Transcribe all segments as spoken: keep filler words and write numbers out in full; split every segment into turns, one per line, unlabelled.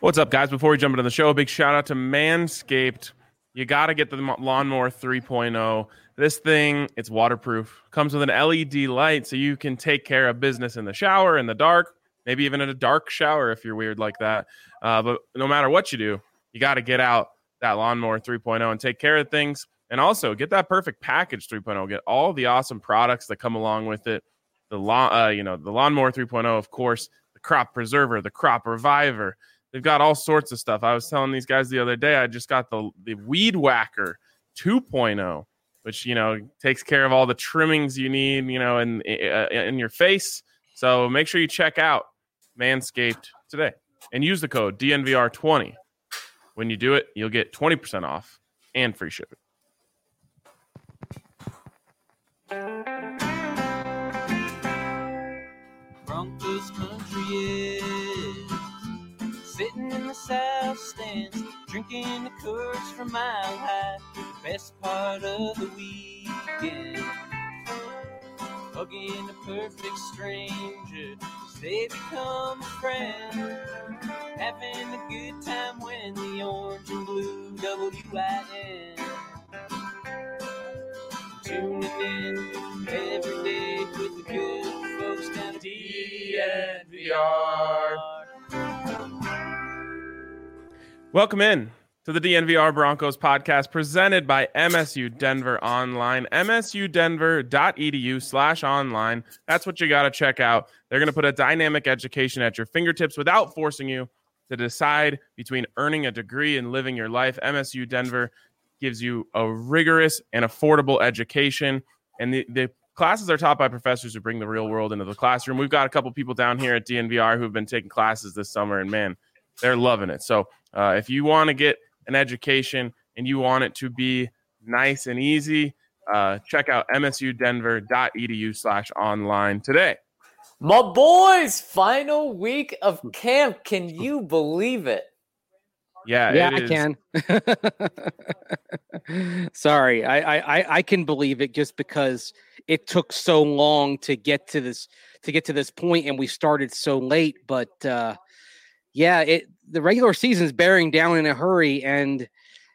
What's up, guys? Before we jump into the show, a big shout out to Manscaped. You got to get the Lawnmower three point oh. This thing, it's waterproof. Comes with an L E D light so you can take care of business in the shower, in the dark, maybe even in a dark shower if you're weird like that. Uh, but no matter what you do, you got to get out that Lawnmower three point oh and take care of things. And also get that perfect package three point oh. Get all the awesome products that come along with it. The lawn, uh, you know, the Lawnmower three point oh, of course, the Crop Preserver, the Crop Reviver. They've got all sorts of stuff. I was telling these guys the other day, I just got the, the Weed Whacker two point oh, which, you know, takes care of all the trimmings you need, you know, in, in your face. So make sure you check out Manscaped today and use the code D N V R twenty. When you do it, you'll get twenty percent off and free shipping.
Broncos country is sitting in the south stands, drinking the Coors from Mile High, the best part of the weekend. Hugging a perfect stranger, they become a friend. Having a good time when the orange and blue W I N. Tuning in every day with the good folks down at D N V R.
Welcome in to the D N V R Broncos podcast presented by M S U Denver Online, M S U denver dot e d u slash online. That's what you got to check out. They're going to put a dynamic education at your fingertips without forcing you to decide between earning a degree and living your life. M S U Denver gives you a rigorous and affordable education, and the, the classes are taught by professors who bring the real world into the classroom. We've got a couple people down here at D N V R who've been taking classes this summer, and man, they're loving it. So uh, if you want to get an education and you want it to be nice and easy, uh, check out M S U denver dot e d u slash online today.
My boys, final week of camp. Can you believe it?
Yeah,
yeah,
it
I
is.
can. Sorry, I, I I can believe it just because it took so long to get to this to get to this point, and we started so late. But uh, yeah, it the regular season is bearing down in a hurry, and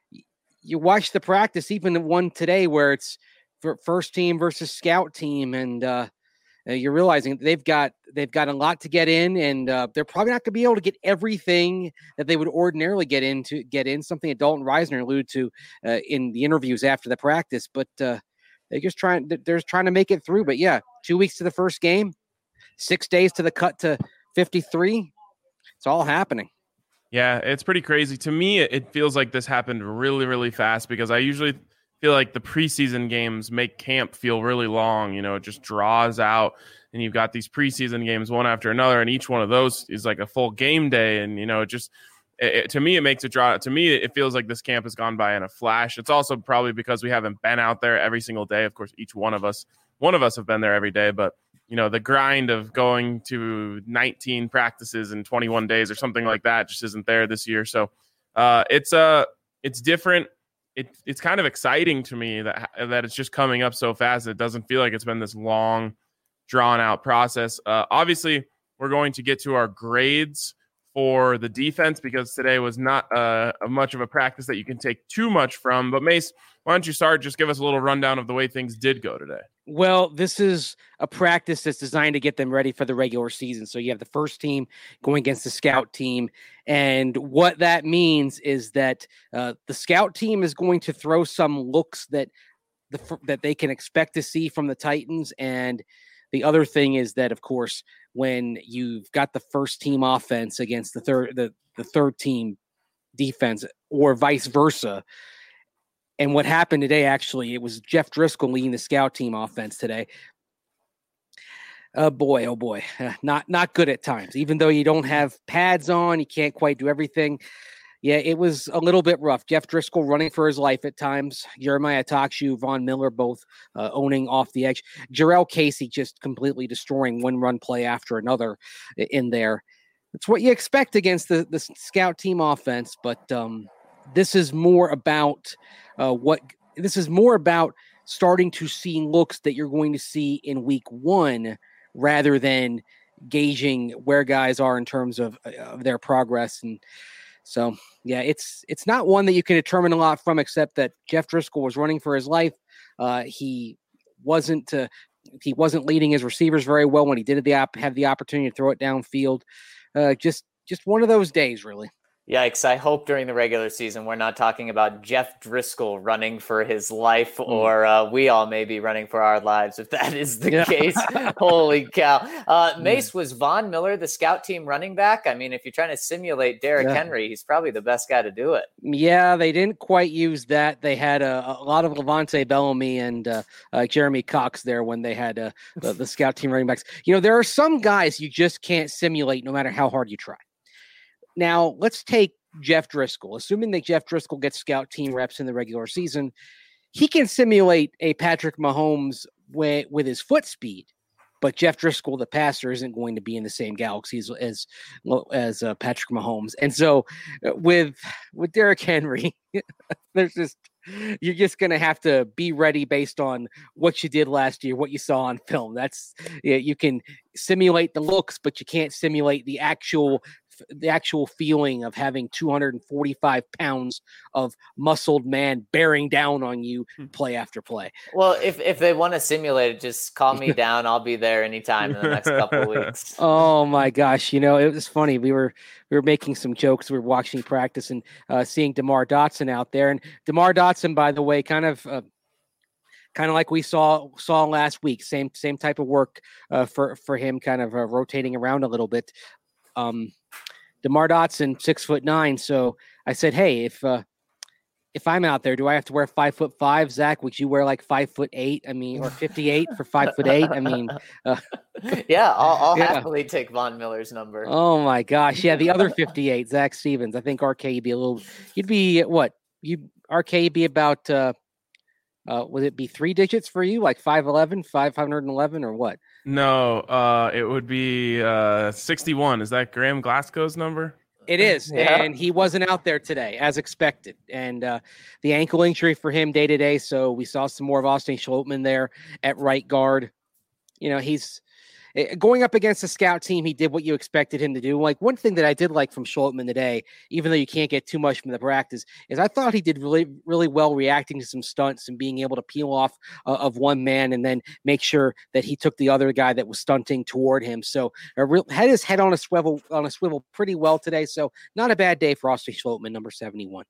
you watch the practice, even the one today where it's for first team versus scout team, and uh, you're realizing they've got they've got a lot to get in, and uh, they're probably not going to be able to get everything that they would ordinarily get in to get in. Something that Dalton Reisner alluded to uh, in the interviews after the practice, but uh, they're just trying they're trying to make it through. But yeah, two weeks to the first game, six days to the cut to fifty-three. It's all happening.
Yeah, it's pretty crazy. To me, it feels like this happened really, really fast because I usually feel like the preseason games make camp feel really long. You know, it just draws out, and you've got these preseason games one after another, and each one of those is like a full game day. And, you know, it just, it, it, to me, it makes it draw. To me, it feels like this camp has gone by in a flash. It's also probably because we haven't been out there every single day. Of course, each one of us, one of us have been there every day, but you know, the grind of going to nineteen practices in twenty-one days or something like that just isn't there this year. So uh, it's uh, it's different. It, it's kind of exciting to me that that it's just coming up so fast. It doesn't feel like it's been this long, drawn out process. Uh, obviously, we're going to get to our grades for the defense because today was not uh, a much of a practice that you can take too much from. But Mace, why don't you start? Just give us a little rundown of the way things did go today.
Well, this is a practice that's designed to get them ready for the regular season. So you have the first team going against the scout team. And what that means is that uh, the scout team is going to throw some looks that the that they can expect to see from the Titans. And the other thing is that, of course, when you've got the first team offense against the third the, the third team defense or vice versa. And what happened today, actually, it was Jeff Driscoll leading the scout team offense today. Oh, boy, oh, boy. Uh, not not good at times. Even though you don't have pads on, you can't quite do everything. Yeah, it was a little bit rough. Jeff Driscoll running for his life at times. Jeremiah Takshu, Von Miller both uh, owning off the edge. Jarrell Casey just completely destroying one run play after another in there. It's what you expect against the, the scout team offense, but um, this is more about uh, what this is more about starting to see looks that you're going to see in week one rather than gauging where guys are in terms of, of their progress. And so, yeah, it's it's not one that you can determine a lot from, except that Jeff Driscoll was running for his life. Uh, he wasn't uh, he wasn't leading his receivers very well when he did the op- have the opportunity to throw it downfield. Uh, just just one of those days, really.
Yikes. I hope during the regular season we're not talking about Jeff Driscoll running for his life, mm. or uh, we all may be running for our lives if that is the yeah. case. Holy cow. Uh, Mace, was Von Miller the scout team running back? I mean, if you're trying to simulate Derrick yeah. Henry, he's probably the best guy to do it.
Yeah, they didn't quite use that. They had a, a lot of Levante Bellamy and uh, uh, Jeremy Cox there when they had uh, the, the scout team running backs. You know, there are some guys you just can't simulate no matter how hard you try. Now, let's take Jeff Driscoll. Assuming that Jeff Driscoll gets scout team reps in the regular season, he can simulate a Patrick Mahomes with, with his foot speed, but Jeff Driscoll, the passer, isn't going to be in the same galaxy as as, as uh, Patrick Mahomes. And so uh, with with Derrick Henry, there's just you're just going to have to be ready based on what you did last year, what you saw on film. That's yeah, you can simulate the looks, but you can't simulate the actual the actual feeling of having two hundred forty-five pounds of muscled man bearing down on you play after play.
Well, if, if they want to simulate it, just call me down. I'll be there anytime in the next couple of weeks.
Oh my gosh. You know, it was funny. We were, we were making some jokes. We were watching practice and uh, seeing DeMar Dotson out there, and DeMar Dotson, by the way, kind of, uh, kind of like we saw saw last week, same same type of work uh, for for him, kind of uh, rotating around a little bit. Um, DeMar Dotson, six foot nine. So I said, hey, if uh, if I'm out there, do I have to wear five foot five? Zach, would you wear like five foot eight? I mean, or fifty-eight for five foot eight? I mean, uh,
yeah, I'll, I'll yeah. happily take Von Miller's number.
Oh my gosh, yeah, the other fifty-eight, Zach Stevens. I think R K you'd be a little. You'd be what? You R K you'd be about. Uh, uh, would it be three digits for you, like five eleven, five hundred eleven, or what?
No, uh, it would be uh, sixty-one. Is that Graham Glasgow's number?
It is, yeah. And he wasn't out there today, as expected. And uh, the ankle injury for him day to day, so we saw some more of Austin Schlottman there at right guard. You know, he's going up against a scout team. He did what you expected him to do. Like, one thing that I did like from Schlottman today, even though you can't get too much from the practice, is I thought he did really, really well reacting to some stunts and being able to peel off uh, of one man and then make sure that he took the other guy that was stunting toward him. So uh, real, had his head on a swivel on a swivel pretty well today. So not a bad day for Austin Schlottman, number seventy-one.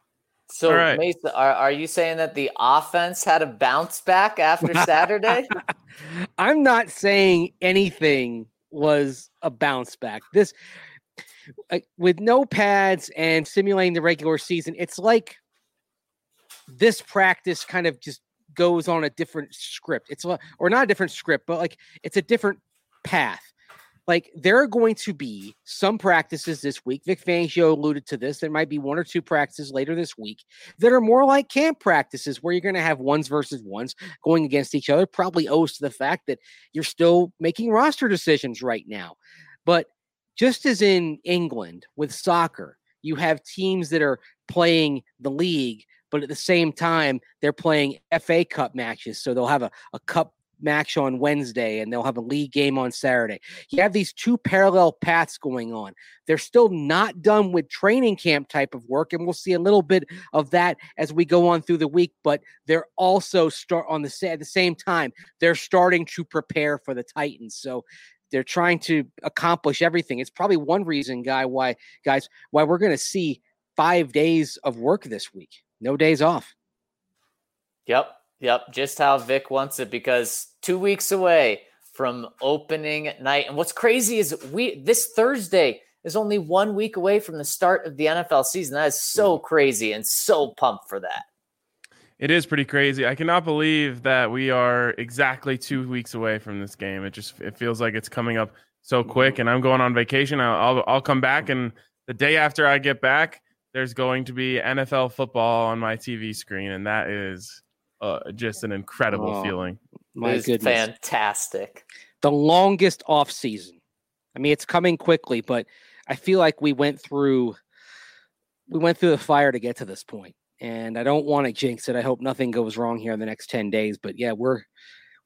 So, right. Mason, are, are you saying that the offense had a bounce back after Saturday?
I'm not saying anything was a bounce back. This, uh, with no pads and simulating the regular season, it's like this practice kind of just goes on a different script. It's a, or not a different script, but like it's a different path. Like, there are going to be some practices this week. Vic Fangio alluded to this. There might be one or two practices later this week that are more like camp practices where you're going to have ones versus ones going against each other. Probably owes to the fact that you're still making roster decisions right now. But just as in England with soccer, you have teams that are playing the league, but at the same time, they're playing F A Cup matches. So they'll have a, a cup match on Wednesday and they'll have a league game on Saturday. You have these two parallel paths going on. They're still not done with training camp type of work, and we'll see a little bit of that as we go on through the week, but they're also start on the at the same time, they're starting to prepare for the Titans. So they're trying to accomplish everything. It's probably one reason, guy, why guys, why we're going to see five days of work this week. No days off.
Yep. Yep, just how Vic wants it, because two weeks away from opening night. And what's crazy is we this Thursday is only one week away from the start of the N F L season. That is so crazy, and so pumped for that.
It is pretty crazy. I cannot believe that we are exactly two weeks away from this game. It just it feels like it's coming up so quick, and I'm going on vacation. I'll I'll, I'll come back, and the day after I get back, there's going to be N F L football on my T V screen, and that is Uh, just an incredible oh, feeling.
My
it's
goodness.
Fantastic.
The longest off season. I mean, it's coming quickly, but I feel like we went through we went through the fire to get to this point. And I don't want to jinx it. I hope nothing goes wrong here in the next ten days. But yeah, we're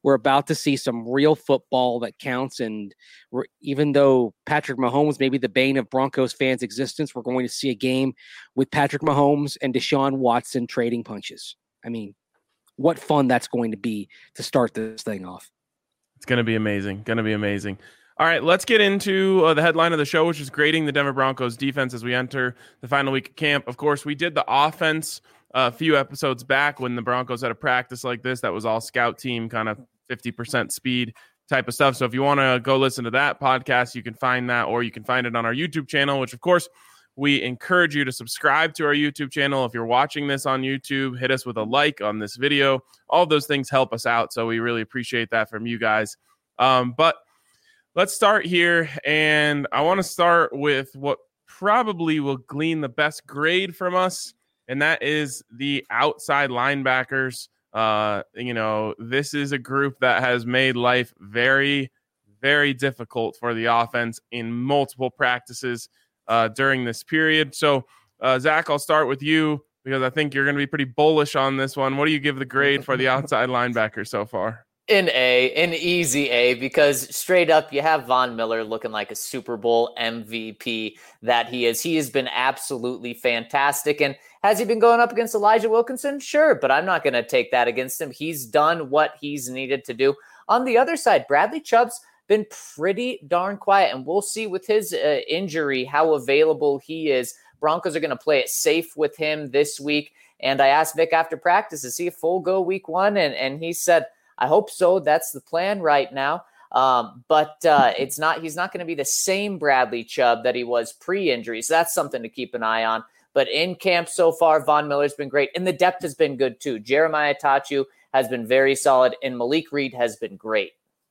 we're about to see some real football that counts. And we're, even though Patrick Mahomes may be the bane of Broncos fans' existence, we're going to see a game with Patrick Mahomes and Deshaun Watson trading punches. I mean, what fun that's going to be to start this thing off.
It's going to be amazing. Going to be amazing. All right, let's get into uh, the headline of the show, which is grading the Denver Broncos defense as we enter the final week of camp. Of course, we did the offense uh, a few episodes back when the Broncos had a practice like this that was all scout team, kind of fifty percent speed type of stuff. So if you want to go listen to that podcast, you can find that, or you can find it on our YouTube channel, which, of course, we encourage you to subscribe to our YouTube channel. If you're watching this on YouTube, hit us with a like on this video. All of those things help us out, so we really appreciate that from you guys. Um, but let's start here, and I want to start with what probably will glean the best grade from us, and that is the outside linebackers. Uh, you know, this is a group that has made life very, very difficult for the offense in multiple practices uh, during this period. So, uh, Zach, I'll start with you because I think you're going to be pretty bullish on this one. What do you give the grade for the outside linebackers so far?
An A, an easy A, because straight up you have Von Miller looking like a Super Bowl M V P that he is. He has been absolutely fantastic. And has he been going up against Elijah Wilkinson? Sure, but I'm not going to take that against him. He's done what he's needed to do. On the other side, Bradley Chubb's been pretty darn quiet, and we'll see with his uh, injury how available he is. Broncos are going to play it safe with him this week. And I asked Vic after practice, is he a full go week one? And, and he said, I hope so. That's the plan right now. Um, but uh, it's not. He's not going to be the same Bradley Chubb that he was pre-injury. So that's something to keep an eye on. But in camp so far, Von Miller's been great. And the depth has been good too. Jeremiah Tachu has been very solid. And Malik Reed has been great.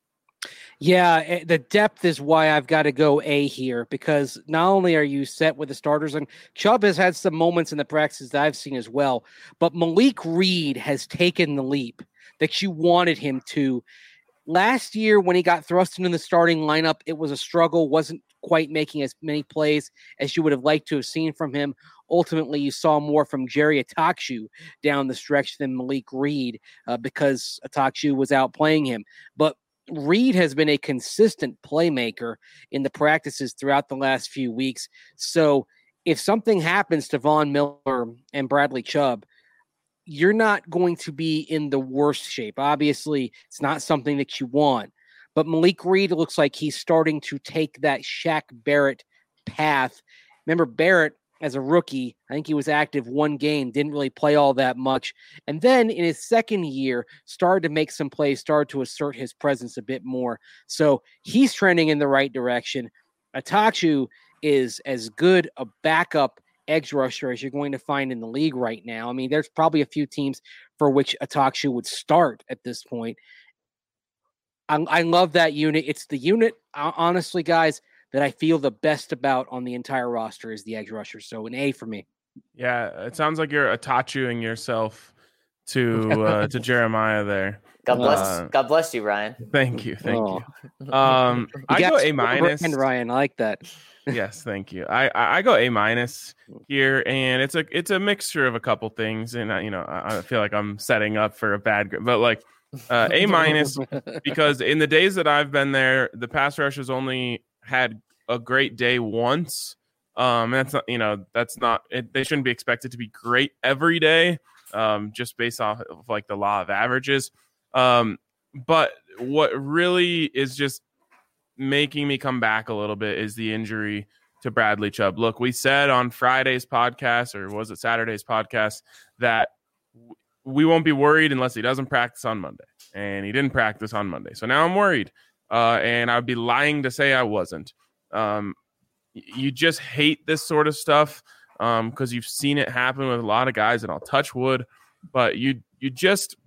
Yeah, the depth is why I've got to go A here, because not only are you set with the starters, and Chubb has had some moments in the practices that I've seen as well, but Malik Reed has taken the leap that you wanted him to. Last year, when he got thrust into the starting lineup, it was a struggle, wasn't quite making as many plays as you would have liked to have seen from him. Ultimately, you saw more from Jerry Atakshu down the stretch than Malik Reed uh, because Atakshu was out playing him. But Reed has been a consistent playmaker in the practices throughout the last few weeks. So if something happens to Von Miller and Bradley Chubb, you're not going to be in the worst shape. Obviously, it's not something that you want. But Malik Reed looks like he's starting to take that Shaq Barrett path. Remember, Barrett, as a rookie, I think he was active one game, didn't really play all that much. And then in his second year, started to make some plays, started to assert his presence a bit more. So he's trending in the right direction. Atakshu is as good a backup edge rusher as you're going to find in the league right now. I mean, there's probably a few teams for which Atakshu would start at this point. I, I love that unit. It's the unit, honestly, guys, that I feel the best about on the entire roster is the edge rusher. So an A for me.
Yeah, it sounds like you're Atachuing yourself to uh, to Jeremiah there.
God bless,
uh,
God bless you, Ryan.
Thank you, thank
oh.
you. Um,
you
I go A minus.
Ryan, I like that.
Yes, thank you. I, I I go A minus here, and it's a it's a mixture of a couple things, and I, you know I, I feel like I'm setting up for a bad, but like uh, A minus because in the days that I've been there, the pass rush has only had a great day once. Um, that's not, you know, that's not, it, they shouldn't be expected to be great every day, um, just based off of like the law of averages. Um, but what really is just making me come back a little bit is the injury to Bradley Chubb. Look, we said on Friday's podcast, or was it Saturday's podcast, that we won't be worried unless he doesn't practice on Monday, and he didn't practice on Monday. So now I'm worried. Uh, and I'd be lying to say I wasn't. Um, you just hate this sort of stuff um, because you've seen it happen with a lot of guys, and I'll touch wood, but you you just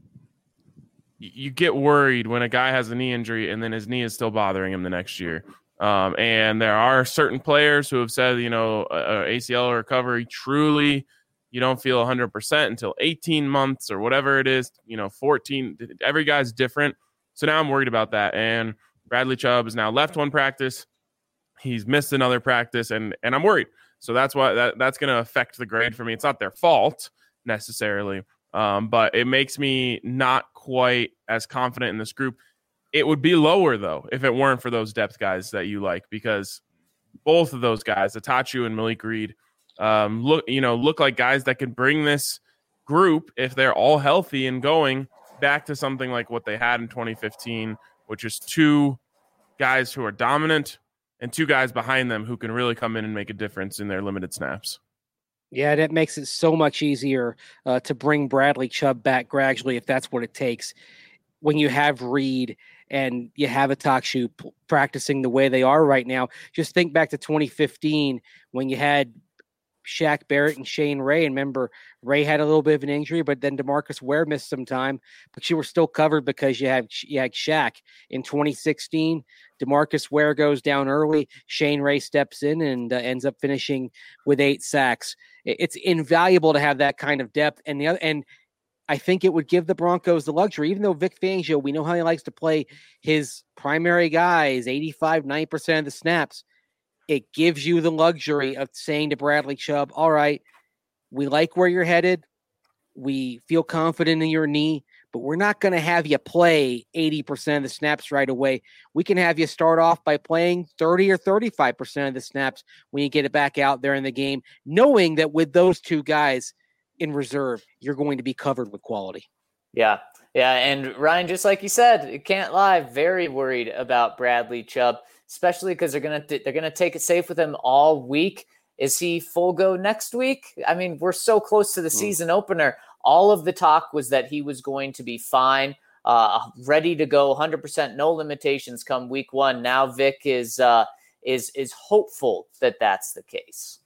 you get worried when a guy has a knee injury and then his knee is still bothering him the next year. Um, and there are certain players who have said, you know, uh, A C L recovery, truly you don't feel one hundred percent until eighteen months or whatever it is, you know, fourteen. Every guy's different. So now I'm worried about that. And Bradley Chubb has now left one practice. He's missed another practice, and and I'm worried. So that's why that, that's going to affect the grade for me. It's not their fault necessarily, Um, but it makes me not quite as confident in this group. It would be lower, though, if it weren't for those depth guys that you like, because both of those guys, Atachu and Malik Reed, um, look, you know, look like guys that could bring this group, if they're all healthy and going, back to something like what they had in twenty fifteen, which is two guys who are dominant and two guys behind them who can really come in and make a difference in their limited snaps.
Yeah, that makes it so much easier uh, to bring Bradley Chubb back gradually if that's what it takes. When you have Reed and you have Atachu p- practicing the way they are right now, just think back to twenty fifteen when you had Shaq Barrett and Shane Ray. And remember, Ray had a little bit of an injury, but then DeMarcus Ware missed some time, but you were still covered because you had, you had Shaq. In twenty sixteen, DeMarcus Ware goes down early. Shane Ray steps in and uh, ends up finishing with eight sacks. It's invaluable to have that kind of depth. And the other, and I think it would give the Broncos the luxury, even though Vic Fangio, we know how he likes to play his primary guys, eighty-five, ninety percent of the snaps. It gives you the luxury of saying to Bradley Chubb, all right, we like where you're headed. We feel confident in your knee, but we're not going to have you play eighty percent of the snaps right away. We can have you start off by playing thirty or thirty-five percent of the snaps when you get it back out there in the game, knowing that with those two guys in reserve, you're going to be covered with quality.
Yeah. Yeah. And Ryan, just like you said, you can't lie, very worried about Bradley Chubb, especially because they're going to, they're going to take it safe with him all week. Is he full go next week? I mean, we're so close to the season opener. All of the talk was that he was going to be fine, uh, ready to go, one hundred percent, no limitations come week one. Now Vic is, uh, is, is hopeful that that's the case.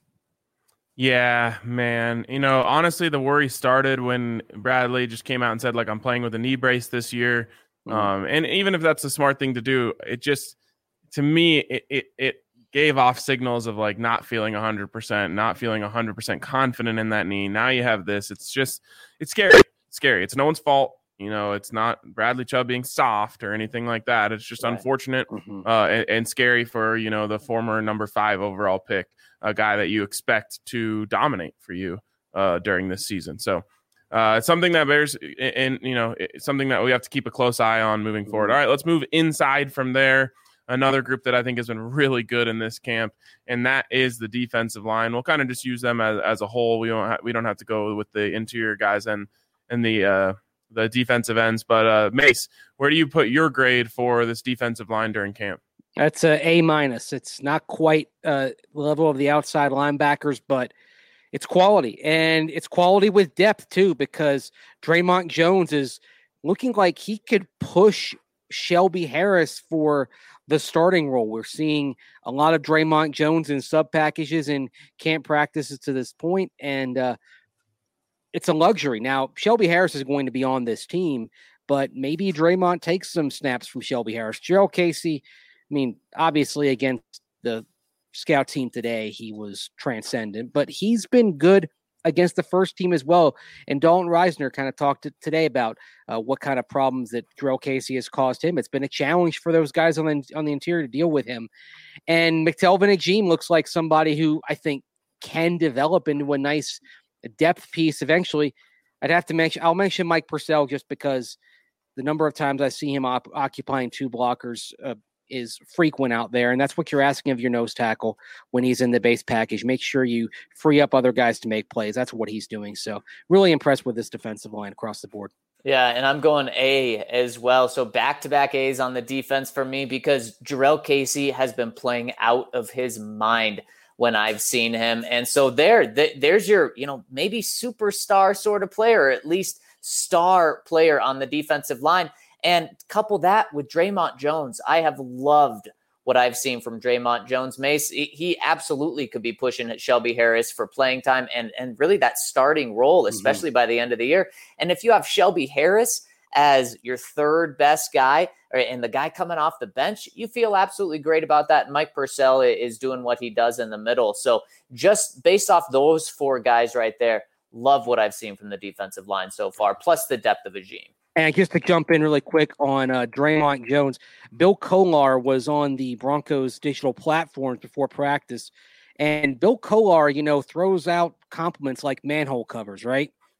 Yeah, man. You know, honestly, the worry started when Bradley just came out and said, like, I'm playing with a knee brace this year. Mm-hmm. Um, and even if that's a smart thing to do, it just, to me, it, it, it gave off signals of like not feeling one hundred percent, not feeling one hundred percent confident in that knee. Now you have this. It's just, it's scary. It's scary. It's no one's fault. You know, it's not Bradley Chubb being soft or anything like that. It's just right. unfortunate mm-hmm. uh, and, and scary for, you know, the former number five overall pick, a guy that you expect to dominate for you uh, during this season. So uh, it's something that bears, and, and you know, it's something that we have to keep a close eye on moving forward. All right, let's move inside from there. Another group that I think has been really good in this camp, and that is the defensive line. We'll kind of just use them as, as a whole. We don't ha- we don't have to go with the interior guys and and the uh, the defensive ends. But uh, Mace, where do you put your grade for this defensive line during camp?
That's a A minus. It's not quite uh, the level of the outside linebackers, but it's quality, and it's quality with depth too. Because Draymond Jones is looking like he could push Shelby Harris for the starting role. We're seeing a lot of Draymond Jones in sub packages and camp practices to this point, and uh, it's a luxury. Now, Shelby Harris is going to be on this team, but maybe Draymond takes some snaps from Shelby Harris. Jurrell Casey, I mean, obviously against the scout team today, he was transcendent, but he's been good against the first team as well. And Dalton Reisner kind of talked to, today about uh, what kind of problems that Jurrell Casey has caused him. It's been a challenge for those guys on the, on the interior to deal with him. And McTelvin Agim looks like somebody who I think can develop into a nice depth piece eventually. I'd have to mention, I'll mention Mike Purcell just because the number of times I see him op- occupying two blockers uh, is frequent out there. And that's what you're asking of your nose tackle when he's in the base package. Make sure you free up other guys to make plays. That's what he's doing. So really impressed with this defensive line across the board.
Yeah, and I'm going A as well. So back-to-back A's on the defense for me because Jurrell Casey has been playing out of his mind when I've seen him. And so there, th- there's your, you know, maybe superstar sort of player, or at least star player on the defensive line. And couple that with Draymond Jones. I have loved what I've seen from Draymond Jones. Mace, he absolutely could be pushing at Shelby Harris for playing time and, and really that starting role, especially mm-hmm. by the end of the year. And if you have Shelby Harris as your third best guy and the guy coming off the bench, you feel absolutely great about that. Mike Purcell is doing what he does in the middle. So just based off those four guys right there, love what I've seen from the defensive line so far, plus the depth of Agim.
And just to jump in really quick on uh, Draymond Jones, Bill Kolar was on the Broncos digital platforms before practice. And Bill Kolar, you know, throws out compliments like manhole covers, right?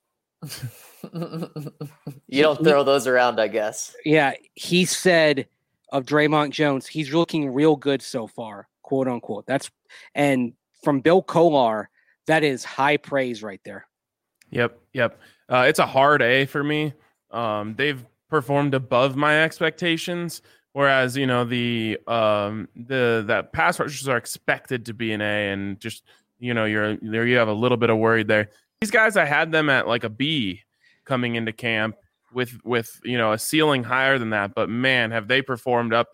You don't throw those around, I guess.
Yeah, he said of Draymond Jones, he's looking real good so far, quote unquote. That's and from Bill Kolar, that is high praise right there.
Yep, yep. Uh, it's a hard A for me. Um, they've performed above my expectations, whereas you know the um, the that pass rushers are expected to be an A, and just you know you're there you have a little bit of worried there. These guys, I had them at like a B coming into camp with with you know a ceiling higher than that, but man, have they performed up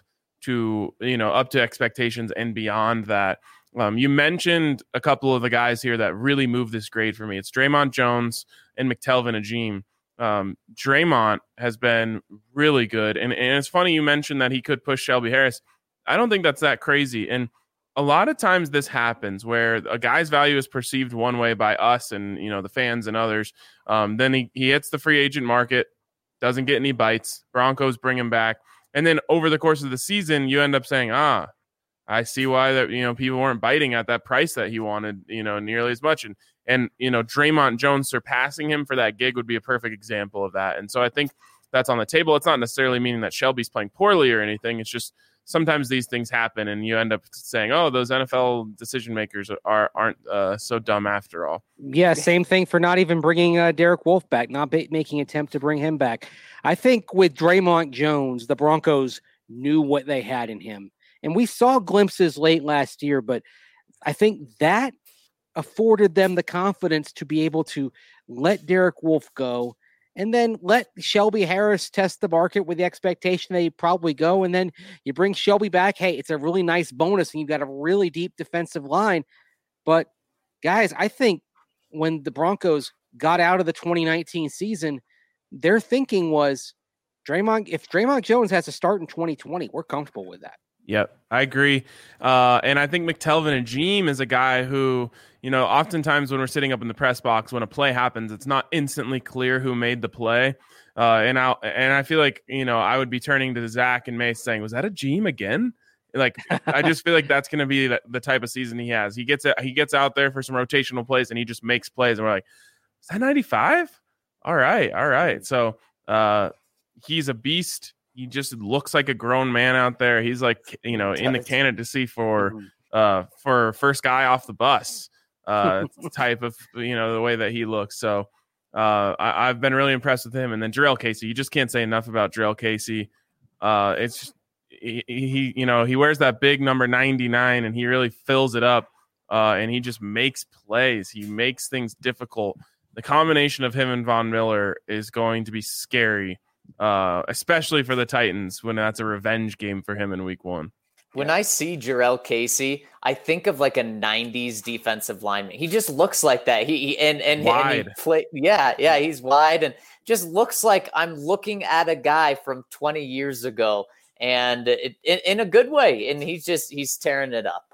to you know up to expectations and beyond that. Um, you mentioned a couple of the guys here that really moved this grade for me. It's Draymond Jones and McTelvin Agim. Um, Draymond has been really good, and, and it's funny you mentioned that he could push Shelby Harris. I don't think that's that crazy, and a lot of times this happens where a guy's value is perceived one way by us and you know the fans and others. Um, then he, he hits the free agent market, doesn't get any bites. Broncos bring him back, and then over the course of the season, you end up saying, "Ah, I see why that you know people weren't biting at that price that he wanted, you know, nearly as much." And and you know Draymond Jones surpassing him for that gig would be a perfect example of that. And so I think that's on the table. It's not necessarily meaning that Shelby's playing poorly or anything. It's just sometimes these things happen, and you end up saying, "Oh, those N F L decision makers are aren't uh, so dumb after all."
Yeah, same thing for not even bringing uh, Derek Wolfe back, not ba- making an attempt to bring him back. I think with Draymond Jones, the Broncos knew what they had in him, and we saw glimpses late last year. But I think that afforded them the confidence to be able to let Derek Wolfe go. And then let Shelby Harris test the market with the expectation that he'd probably go. And then you bring Shelby back. Hey, it's a really nice bonus, and you've got a really deep defensive line. But, guys, I think when the Broncos got out of the twenty nineteen season, their thinking was, Draymond, if Draymond Jones has to start in twenty twenty, we're comfortable with that.
Yep, I agree. Uh, and I think McTelvin Agim is a guy who, you know, oftentimes when we're sitting up in the press box, when a play happens, it's not instantly clear who made the play. Uh, and I and I feel like, you know, I would be turning to Zach and Mace saying, was that Agim again? Like, I just feel like that's going to be the, the type of season he has. He gets he gets out there for some rotational plays and he just makes plays. And we're like, is that ninety-five? All right. All right. So uh, he's a beast. He just looks like a grown man out there. He's like, you know, in the candidacy for uh, for first guy off the bus uh, type of, you know, the way that he looks. So uh, I, I've been really impressed with him. And then Jurrell Casey, you just can't say enough about Jurrell Casey. Uh, it's just, he, he, you know, he wears that big number ninety-nine and he really fills it up. Uh, and he just makes plays. He makes things difficult. The combination of him and Von Miller is going to be scary. Uh, especially for the Titans when that's a revenge game for him in week one.
When yeah. I see Jurrell Casey, I think of like a nineties defensive lineman. He just looks like that. He, he and and,
wide.
and he play, yeah, yeah, he's wide and just looks like I'm looking at a guy from twenty years ago, and it, in, in a good way. And he's just he's tearing it up.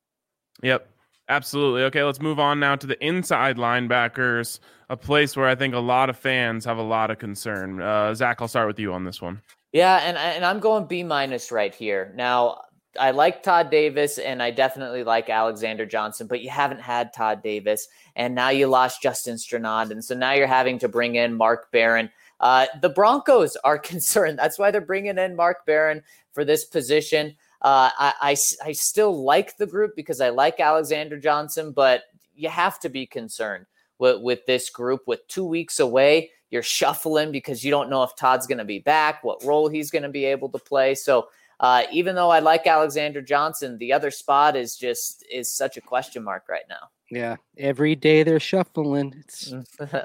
Yep, absolutely. Okay, let's move on now to the inside linebackers. A place where I think a lot of fans have a lot of concern. Uh, Zach, I'll start with you on this one.
Yeah, and and I'm going B minus right here. Now, I like Todd Davis, and I definitely like Alexander Johnson, but you haven't had Todd Davis, and now you lost Justin Strnad, and so now you're having to bring in Mark Barron. Uh, the Broncos are concerned. That's why they're bringing in Mark Barron for this position. Uh, I, I, I still like the group because I like Alexander Johnson, but you have to be concerned with, with this group. With two weeks away, you're shuffling because you don't know if Todd's going to be back, what role he's going to be able to play. So uh, even though I like Alexander Johnson, the other spot is just is such a question mark right now.
Yeah, every day they're shuffling. It's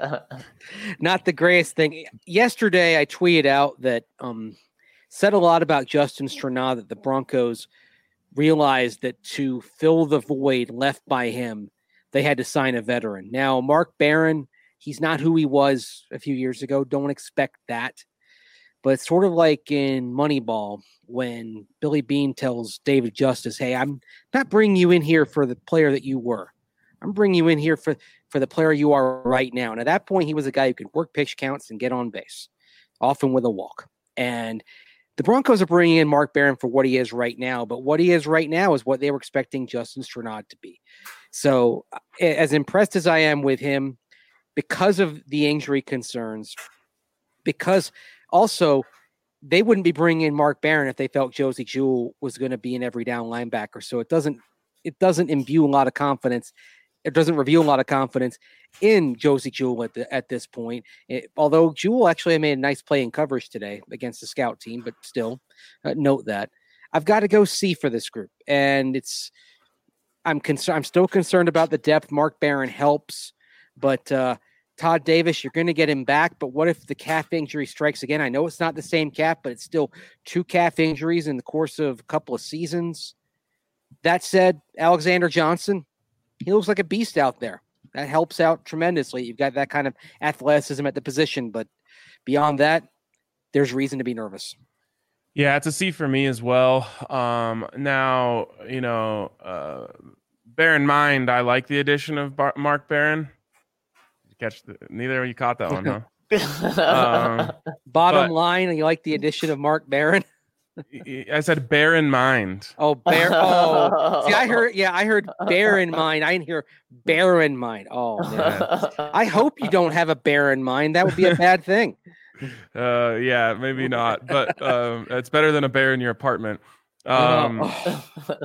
not the greatest thing. Yesterday, I tweeted out that um, said a lot about Justin Strnad, that the Broncos realized that to fill the void left by him, they had to sign a veteran. Now, Mark Barron, he's not who he was a few years ago. Don't expect that. But it's sort of like in Moneyball when Billy Beane tells David Justice, hey, I'm not bringing you in here for the player that you were. I'm bringing you in here for, for the player you are right now. And at that point, he was a guy who could work pitch counts and get on base, often with a walk. And the Broncos are bringing in Mark Barron for what he is right now. But what he is right now is what they were expecting Justin Strnad to be. So as impressed as I am with him, because of the injury concerns, because also they wouldn't be bringing in Mark Barron if they felt Josie Jewell was going to be an every down linebacker. So it doesn't it doesn't imbue a lot of confidence. It doesn't reveal a lot of confidence in Josie Jewell at the, at this point. It, although Jewell actually made a nice play in coverage today against the scout team, but still uh, note that I've got to go C for this group, and it's I'm concerned. I'm still concerned about the depth. Mark Barron helps, but uh, Todd Davis, you're going to get him back. But what if the calf injury strikes again? I know it's not the same calf, but it's still two calf injuries in the course of a couple of seasons. That said, Alexander Johnson, he looks like a beast out there. That helps out tremendously. You've got that kind of athleticism at the position, but beyond that, there's reason to be nervous.
Yeah, it's a C for me as well. Um, now, you know, uh, bear in mind, I like the addition of Bar- Mark Barron. Catch the, neither of you caught that one, huh? um,
Bottom
but,
line, you like the addition of Mark Barron?
I said bear in mind.
Oh, bear. Oh, see, I heard. Yeah, I heard bear in mind. I didn't hear bear in mind. Oh, man. I hope you don't have a bear in mind. That would be a bad thing.
Uh, yeah, maybe not, but um, it's better than a bear in your apartment. Um,
oh.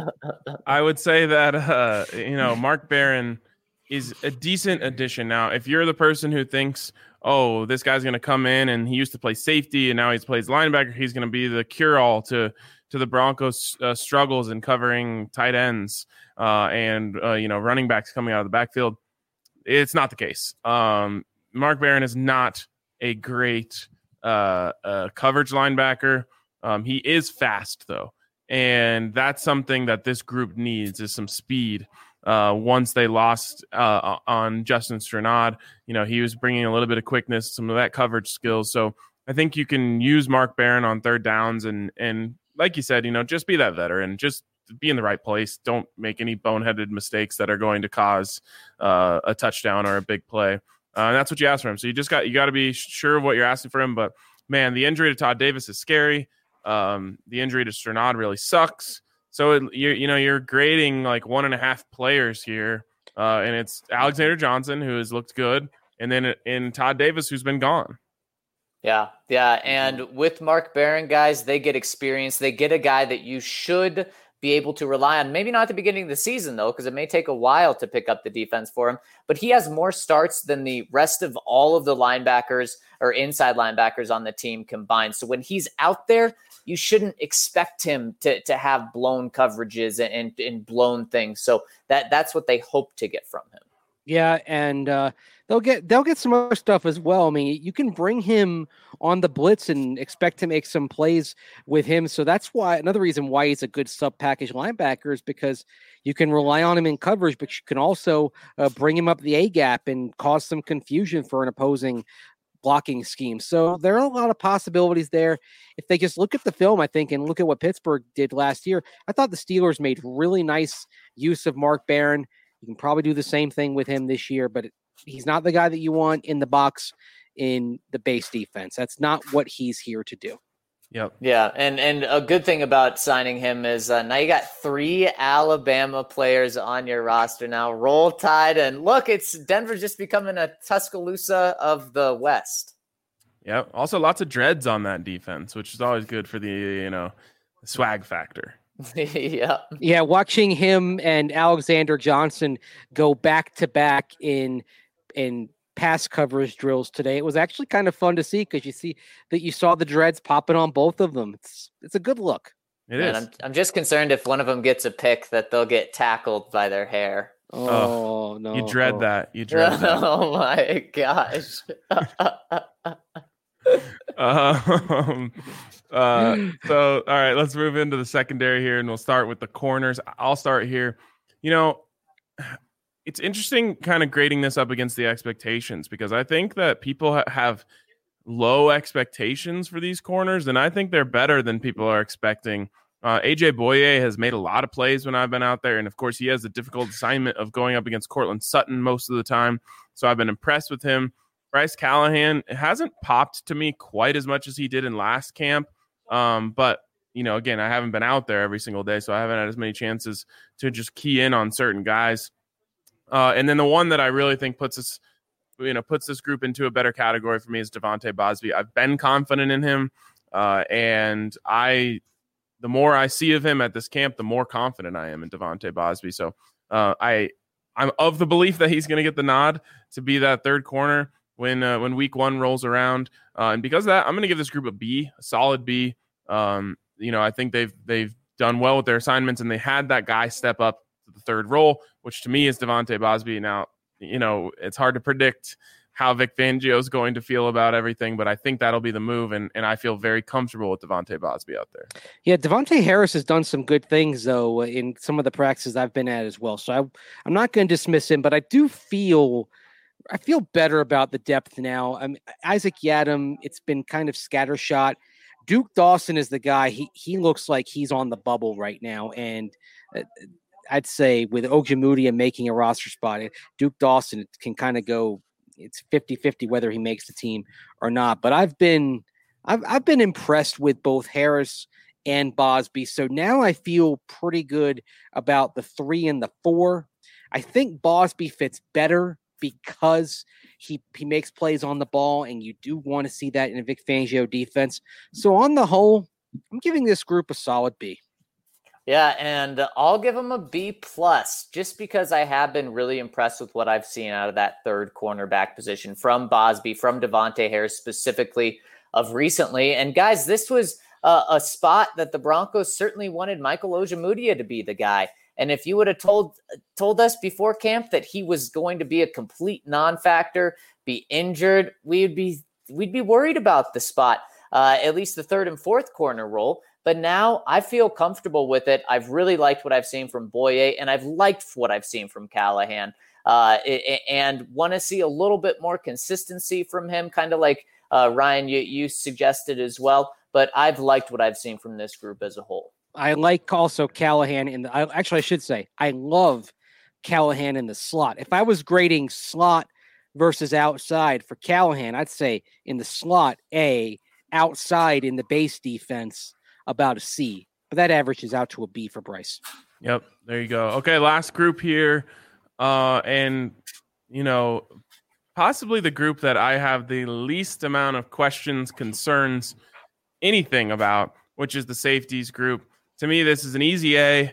I would say that uh, you know, Mark Barron is a decent addition. Now, if you're the person who thinks, oh, this guy's going to come in and he used to play safety and now he plays linebacker, he's going to be the cure-all to to the Broncos' uh, struggles in covering tight ends uh, and uh, you know, running backs coming out of the backfield. It's not the case. Um, Mark Barron is not a great uh, uh, coverage linebacker. Um, he is fast, though, and that's something that this group needs is some speed. Uh, once they lost uh, on Justin Strnad, you know, he was bringing a little bit of quickness, some of that coverage skills. So I think you can use Mark Barron on third downs and, and like you said, you know, just be that veteran, just be in the right place. Don't make any boneheaded mistakes that are going to cause uh, a touchdown or a big play. Uh, and that's what you ask for him. So you just got, you got to be sure of what you're asking for him. But man, the injury to Todd Davis is scary. Um, the injury to Strnad really sucks. So, it, you you know, you're grading like one and a half players here. Uh, and it's Alexander Johnson, who has looked good. And then in Todd Davis, who's been gone.
Yeah. Yeah. And with Mark Barron, guys, they get experience. They get a guy that you should be able to rely on. Maybe not at the beginning of the season, though, because it may take a while to pick up the defense for him. But he has more starts than the rest of all of the linebackers or inside linebackers on the team combined. So when he's out there, you shouldn't expect him to, to have blown coverages and, and, and blown things. So that that's what they hope to get from him.
Yeah, and uh, they'll get they'll get some other stuff as well. I mean, you can bring him on the blitz and expect to make some plays with him. So that's why another reason why he's a good sub package linebacker is because you can rely on him in coverage, but you can also uh, bring him up the A gap and cause some confusion for an opposing blocking scheme. So there are a lot of possibilities there. If they just look at the film, I think, and look at what Pittsburgh did last year, I thought the Steelers made really nice use of Mark Barron. You can probably do the same thing with him this year, but he's not the guy that you want in the box in the base defense. That's not what he's here to do.
Yep.
Yeah, and and a good thing about signing him is uh, now you got three Alabama players on your roster now. Roll Tide, and look, it's Denver's just becoming a Tuscaloosa of the West.
Yep. Also, lots of dreads on that defense, which is always good for the, you know, swag factor.
yeah.
Yeah, watching him and Alexander Johnson go back to back in in pass coverage drills today, it was actually kind of fun to see because you see that you saw the dreads popping on both of them. It's it's a good look.
It
Man,
is.
I'm I'm just concerned if one of them gets a pick that they'll get tackled by their hair.
Oh,
oh
no.
You dread that. You dread that.
Oh my gosh.
um, uh, so, all right, let's move into the secondary here, and we'll start with the corners. I'll start here. You know, it's interesting kind of grading this up against the expectations because I think that people ha- have low expectations for these corners, and I think they're better than people are expecting. Uh, A J Boye has made a lot of plays when I've been out there, and of course he has the difficult assignment of going up against Cortland Sutton most of the time, so I've been impressed with him. Bryce Callahan hasn't popped to me quite as much as he did in last camp, um, but you know, again, I haven't been out there every single day, so I haven't had as many chances to just key in on certain guys. Uh, and then the one that I really think puts us you know, puts this group into a better category for me is Devontae Bosby. I've been confident in him, uh, and I, the more I see of him at this camp, the more confident I am in Devontae Bosby. So uh, I, I'm of the belief that he's going to get the nod to be that third corner when uh, when week one rolls around, uh, and because of that, I'm going to give this group a B, a solid B. Um, you know, I think they've they've done well with their assignments, and they had that guy step up to the third role, which to me is Devontae Bosby. Now, you know, it's hard to predict how Vic Fangio is going to feel about everything, but I think that'll be the move, and, and I feel very comfortable with Devontae Bosby out there.
Yeah, Devontae Harris has done some good things, though, in some of the practices I've been at as well. So I, I'm not going to dismiss him, but I do feel I feel better about the depth now. I mean, Isaac Yiadom, it's been kind of scattershot. Duke Dawson is the guy. He he looks like he's on the bubble right now, and uh, I'd say with Ojemudia making a roster spot, Duke Dawson can kind of go. It's fifty-fifty whether he makes the team or not. But I've been I've I've been impressed with both Harris and Bosby. So now I feel pretty good about the three and the four. I think Bosby fits better because he he makes plays on the ball, and you do want to see that in a Vic Fangio defense. So on the whole, I'm giving this group a solid B.
Yeah, and I'll give him a B plus just because I have been really impressed with what I've seen out of that third cornerback position from Bosby, from Devontae Harris specifically of recently. And guys, this was a, a spot that the Broncos certainly wanted Michael Ojemudia to be the guy. And if you would have told told us before camp that he was going to be a complete non-factor, be injured, we'd be we'd be worried about the spot, uh, at least the third and fourth corner role. But now I feel comfortable with it. I've really liked what I've seen from Boye, and I've liked what I've seen from Callahan, uh, and want to see a little bit more consistency from him, kind of like uh, Ryan, you, you suggested as well. But I've liked what I've seen from this group as a whole.
I like also Callahan in the, I, actually I should say, I love Callahan in the slot. If I was grading slot versus outside for Callahan, I'd say in the slot, A, outside in the base defense, about a C, but that averages out to a B for Bryce.
Yep. There you go. Okay. Last group here. Uh, and you know, possibly the group that I have the least amount of questions, concerns, anything about, which is the safeties group. To me, this is an easy A.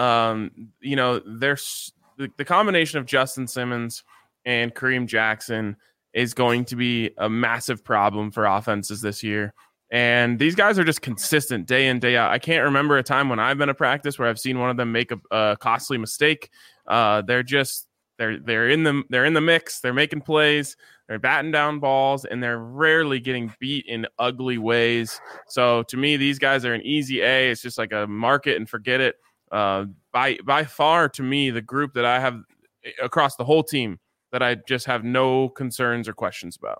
Um, you know, there's the, the combination of Justin Simmons and Kareem Jackson is going to be a massive problem for offenses this year. And these guys are just consistent day in, day out. I can't remember a time when I've been at practice where I've seen one of them make a, a costly mistake. Uh, they're just they're they're in the they're in the mix. They're making plays. They're batting down balls, and they're rarely getting beat in ugly ways. So to me, these guys are an easy A. It's just like a mark it and forget it. Uh, by by far, to me, the group that I have across the whole team that I just have no concerns or questions about.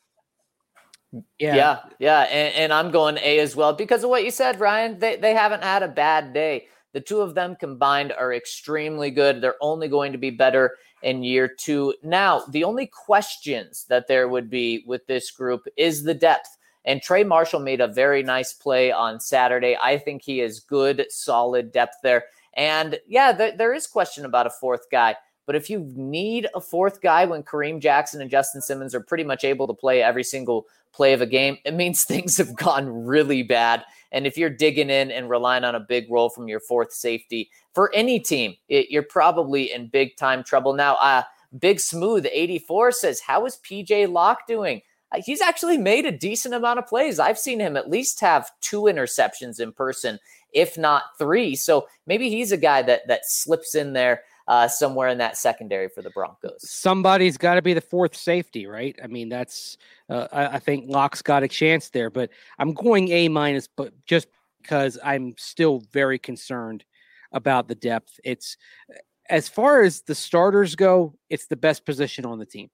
Yeah, yeah, yeah. And, and I'm going A as well because of what you said, Ryan. They they haven't had a bad day. The two of them combined are extremely good. They're only going to be better in year two. Now, the only questions that there would be with this group is the depth. And Trey Marshall made a very nice play on Saturday. I think he is good, solid depth there. And yeah, th- there is question about a fourth guy. But if you need a fourth guy when Kareem Jackson and Justin Simmons are pretty much able to play every single play of a game, it means things have gone really bad. And if you're digging in and relying on a big role from your fourth safety for any team, it, you're probably in big time trouble. Now, uh, Big Smooth eighty-four says, how is P J Locke doing? Uh, he's actually made a decent amount of plays. I've seen him at least have two interceptions in person, if not three. So maybe he's a guy that that slips in there Uh, somewhere in that secondary for the Broncos.
Somebody's got to be the fourth safety, right? I mean, that's, uh, I, I think Locke's got a chance there, but I'm going A minus, but just because I'm still very concerned about the depth. It's, as far as the starters go, it's the best position on the team.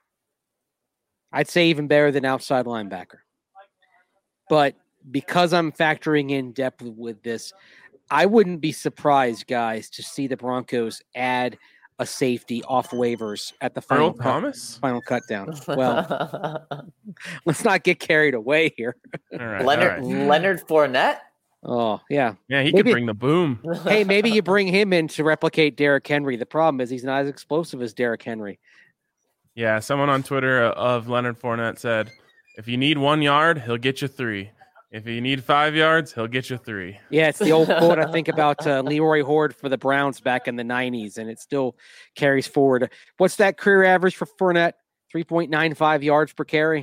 I'd say even better than outside linebacker. But because I'm factoring in depth with this, I wouldn't be surprised, guys, to see the Broncos add a safety off waivers at the final
Earl
cut,
Thomas?
final cut down. Well, let's not get carried away here.
All right,
Leonard
all right.
Leonard Fournette.
Oh, yeah.
Yeah, he
Maybe-
could bring the boom.
Hey, maybe you bring him in to replicate Derrick Henry. The problem is he's not as explosive as Derrick Henry.
Yeah, someone on Twitter of Leonard Fournette said, if you need one yard, he'll get you three. If you need five yards, he'll get you three.
Yeah, it's the old quote I think about uh, Leroy Horde for the Browns back in the nineties, and it still carries forward. What's that career average for Fournette? three point nine five yards per carry.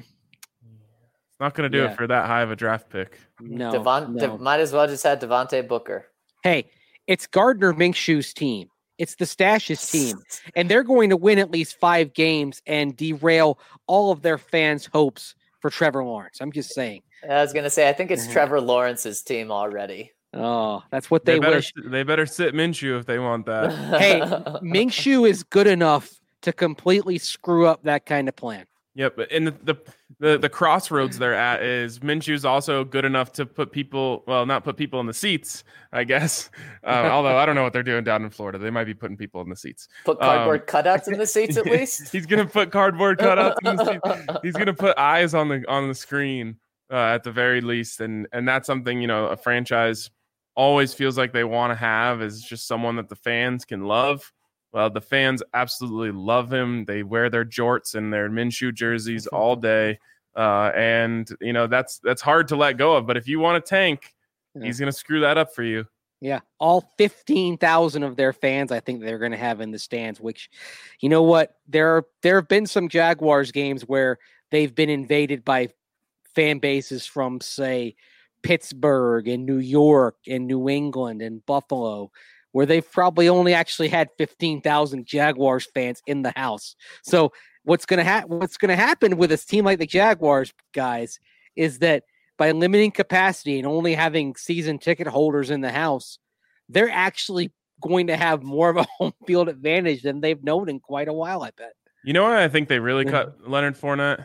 It's not going to do
Yeah.
it for that high of a draft pick.
No,
Devon,
no.
De- might as well just have Devontae Booker.
Hey, it's Gardner Minshew's team. It's the Stash's team, and they're going to win at least five games and derail all of their fans' hopes for Trevor Lawrence. I'm just saying.
I was going to say, I think it's
Mhm.
Trevor Lawrence's team already.
Oh, that's what they,
They, better,
wish.
they better sit Minshew if they want that.
Hey, Minshew is good enough to completely screw up that kind of plan.
Yep, and the, the the the crossroads they're at is Minshew's also good enough to put people, well, not put people in the seats, I guess. Uh, although I don't know what they're doing down in Florida. They might be putting people in the seats.
Put cardboard
Um,
cutouts in the seats at least.
He's gonna put cardboard cutouts in the seats. He's gonna put eyes on the on the screen uh, at the very least, and and that's something, you know, a franchise always feels like they want to have, is just someone that the fans can love. Well, the fans absolutely love him. They wear their jorts and their Minshew jerseys all day, uh, and you know that's that's hard to let go of. But if you want to tank,
Yeah.
he's gonna screw that up for you.
Yeah, all fifteen thousand of their fans, I think they're going to have in the stands. Which, you know what, there are, there have been some Jaguars games where they've been invaded by fan bases from, say, Pittsburgh and New York and New England and Buffalo, where they've probably only actually had fifteen thousand Jaguars fans in the house. So what's going to happen? What's going to happen with a team like the Jaguars, guys, is that by limiting capacity and only having season ticket holders in the house, they're actually going to have more of a home field advantage than they've known in quite a while, I bet.
You know what I think they really cut Leonard Fournette?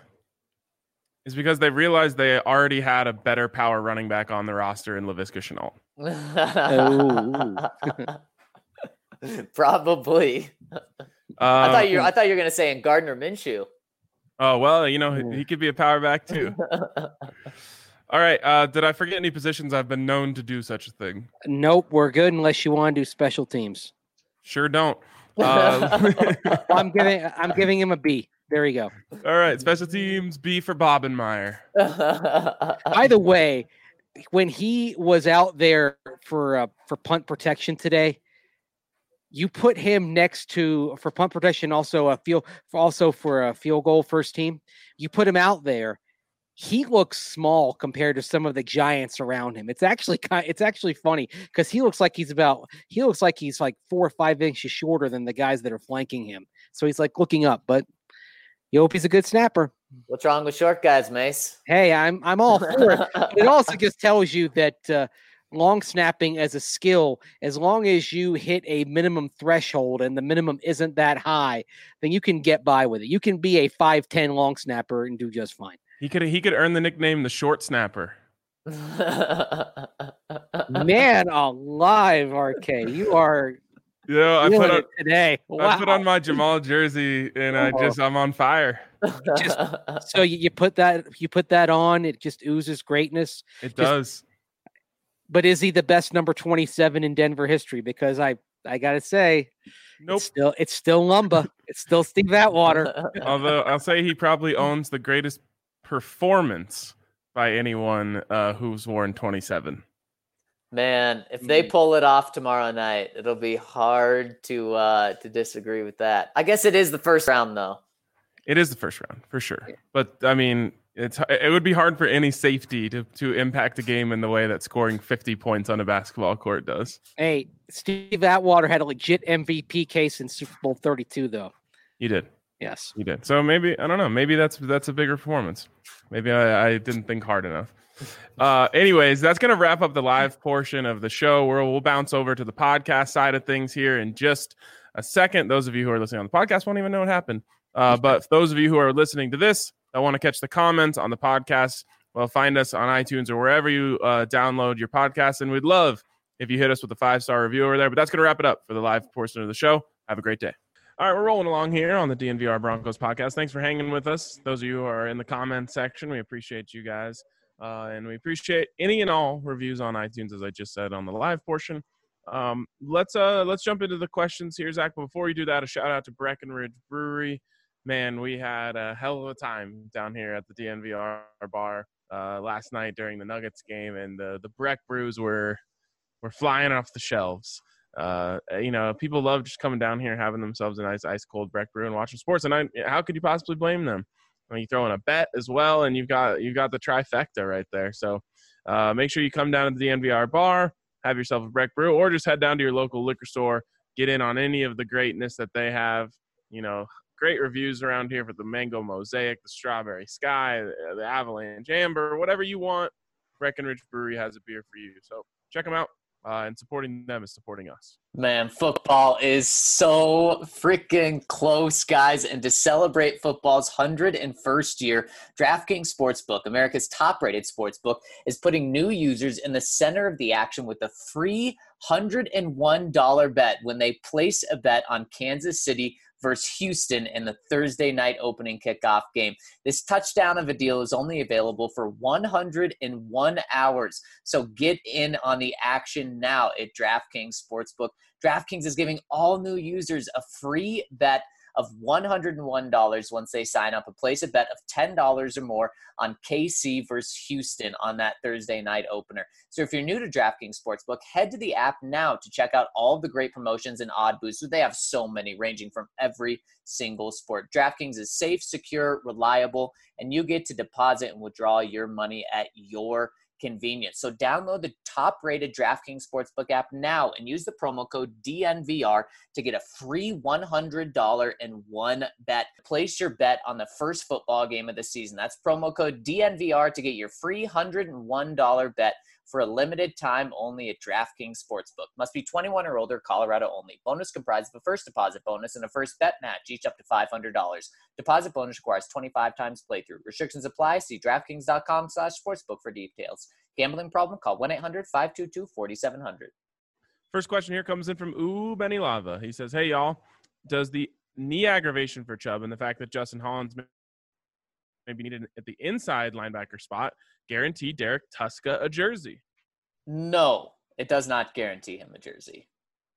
Is because they realized they already had a better power running back on the roster in Laviska Shenault.
Probably.
Uh,
I thought you. I thought you were going to say in Gardner Minshew.
Oh, well, you know, he, he could be a power back too. All right. Uh, did I forget any positions I've been known to do such a thing?
Nope, we're good unless you want to do special teams.
Sure don't. Uh,
I'm giving I'm giving him a B. There you go.
all right. Special teams, B for Bobenmeyer.
By the way, when he was out there for uh, for punt protection today, you put him next to for punt protection, also a field, also for a field goal first team. You put him out there. He looks small compared to some of the giants around him. It's actually kind. It's actually funny because he looks like he's about. He looks like he's like four or five inches shorter than the guys that are flanking him. So he's like looking up, but you hope he's a good snapper.
What's wrong with short guys, Mace?
Hey, I'm I'm all for it. But it also just tells you that uh, long snapping as a skill, as long as you hit a minimum threshold and the minimum isn't that high, then you can get by with it. You can be a five ten long snapper and do just fine.
He could he could earn the nickname the Short Snapper.
Man alive, R K. You are
You know, I
feeling
put on,
it today. Wow.
I put on my Jamal jersey and I just I'm on fire.
Just, so you, you put that you put that on, it just oozes greatness.
It does.
But is he the best number twenty-seven in Denver history? Because I I gotta say,
Nope.
it's still it's still Lumba. It's still Steve Atwater.
Although I'll say he probably owns the greatest performance by anyone uh, who's worn twenty-seven.
Man, if they pull it off tomorrow night, it'll be hard to uh, to disagree with that. I guess it is the first round, though.
It is the first round for sure, but I mean, it's it would be hard for any safety to to impact a game in the way that scoring fifty points on a basketball court does.
Hey, Steve Atwater had a legit M V P case in Super Bowl thirty-two, though.
You did,
Yes.
you did. So maybe I don't know. Maybe that's that's a bigger performance. Maybe I, I didn't think hard enough. Uh, anyways, that's going to wrap up the live portion of the show. We'll, we'll bounce over to the podcast side of things here in just a second. Those of you who are listening on the podcast won't even know what happened. Uh, but for those of you who are listening to this, I want to catch the comments on the podcast. Well, find us on iTunes or wherever you uh, download your podcast. And we'd love if you hit us with a five-star review over there. But that's going to wrap it up for the live portion of the show. Have a great day. All right, we're rolling along here on the D N V R Broncos podcast. Thanks for hanging with us. Those of you who are in the comment section, we appreciate you guys. Uh, and we appreciate any and all reviews on iTunes, as I just said on the live portion. Um, let's uh, let's jump into the questions here, Zach. But before we do that, a shout out to Breckenridge Brewery. man, we had a hell of a time down here at the D N V R bar uh, last night during the Nuggets game, and the the Breck brews were were flying off the shelves. Uh, you know, people love just coming down here, having themselves a nice ice cold Breck brew and watching sports. And I, how could you possibly blame them? I mean, you throw in a bet as well, and you've got you've got the trifecta right there. So uh, make sure you come down to the D N V R bar, have yourself a Breck brew, or just head down to your local liquor store, get in on any of the greatness that they have. You know, great reviews around here for the Mango Mosaic, the Strawberry Sky, the, the Avalanche Amber, whatever you want. Breckenridge Brewery has a beer for you. So check them out. Uh, and supporting them is supporting us.
Man, football is so freaking close, guys. And to celebrate football's one hundred first year, DraftKings Sportsbook, America's top-rated sportsbook, is putting new users in the center of the action with a free one hundred one dollars bet when they place a bet on Kansas City versus Houston in the Thursday night opening kickoff game. This touchdown of a deal is only available for one hundred one hours. So get in on the action now at DraftKings Sportsbook. DraftKings is giving all new users a free bet of one hundred one dollars once they sign up and place a bet of ten dollars or more on K C versus Houston on that Thursday night opener. So if you're new to DraftKings Sportsbook, head to the app now to check out all the great promotions and odd boosts. They have so many ranging from every single sport. DraftKings is safe, secure, reliable, and you get to deposit and withdraw your money at your convenience. So download the top-rated DraftKings Sportsbook app now and use the promo code D N V R to get a free one hundred dollars and one bet. Place your bet on the first football game of the season. That's promo code D N V R to get your free one hundred one dollars bet for a limited time only at DraftKings Sportsbook. Must be twenty-one or older, Colorado only. Bonus comprised of a first deposit bonus and a first bet match, each up to five hundred dollars. Deposit bonus requires twenty-five times playthrough. Restrictions apply. See DraftKings.com slash sportsbook for details. Gambling problem? Call one eight hundred five two two four seven zero zero.
First question here comes in from Ooh Benny Lava. He says, hey, y'all, does the knee aggravation for Chubb and the fact that Justin Hollins maybe needed at the inside linebacker spot guarantee Derek Tuszka a jersey?
No, it does not guarantee him a jersey.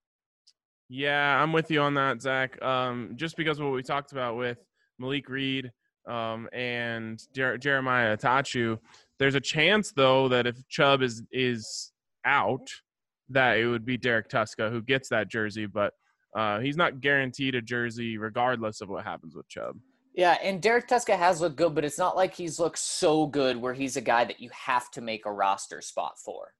Yeah, I'm with you on that, Zach. Um, just because of what we talked about with Malik Reed um, and Jer- Jeremiah Atachu, there's a chance, though, that if Chubb is is out, that it would be Derek Tuszka who gets that jersey. But uh, he's not guaranteed a jersey regardless of what happens with Chubb.
Yeah, and Derek Tuszka has looked good, but it's not like he's looked so good where he's a guy that you have to make a roster spot for.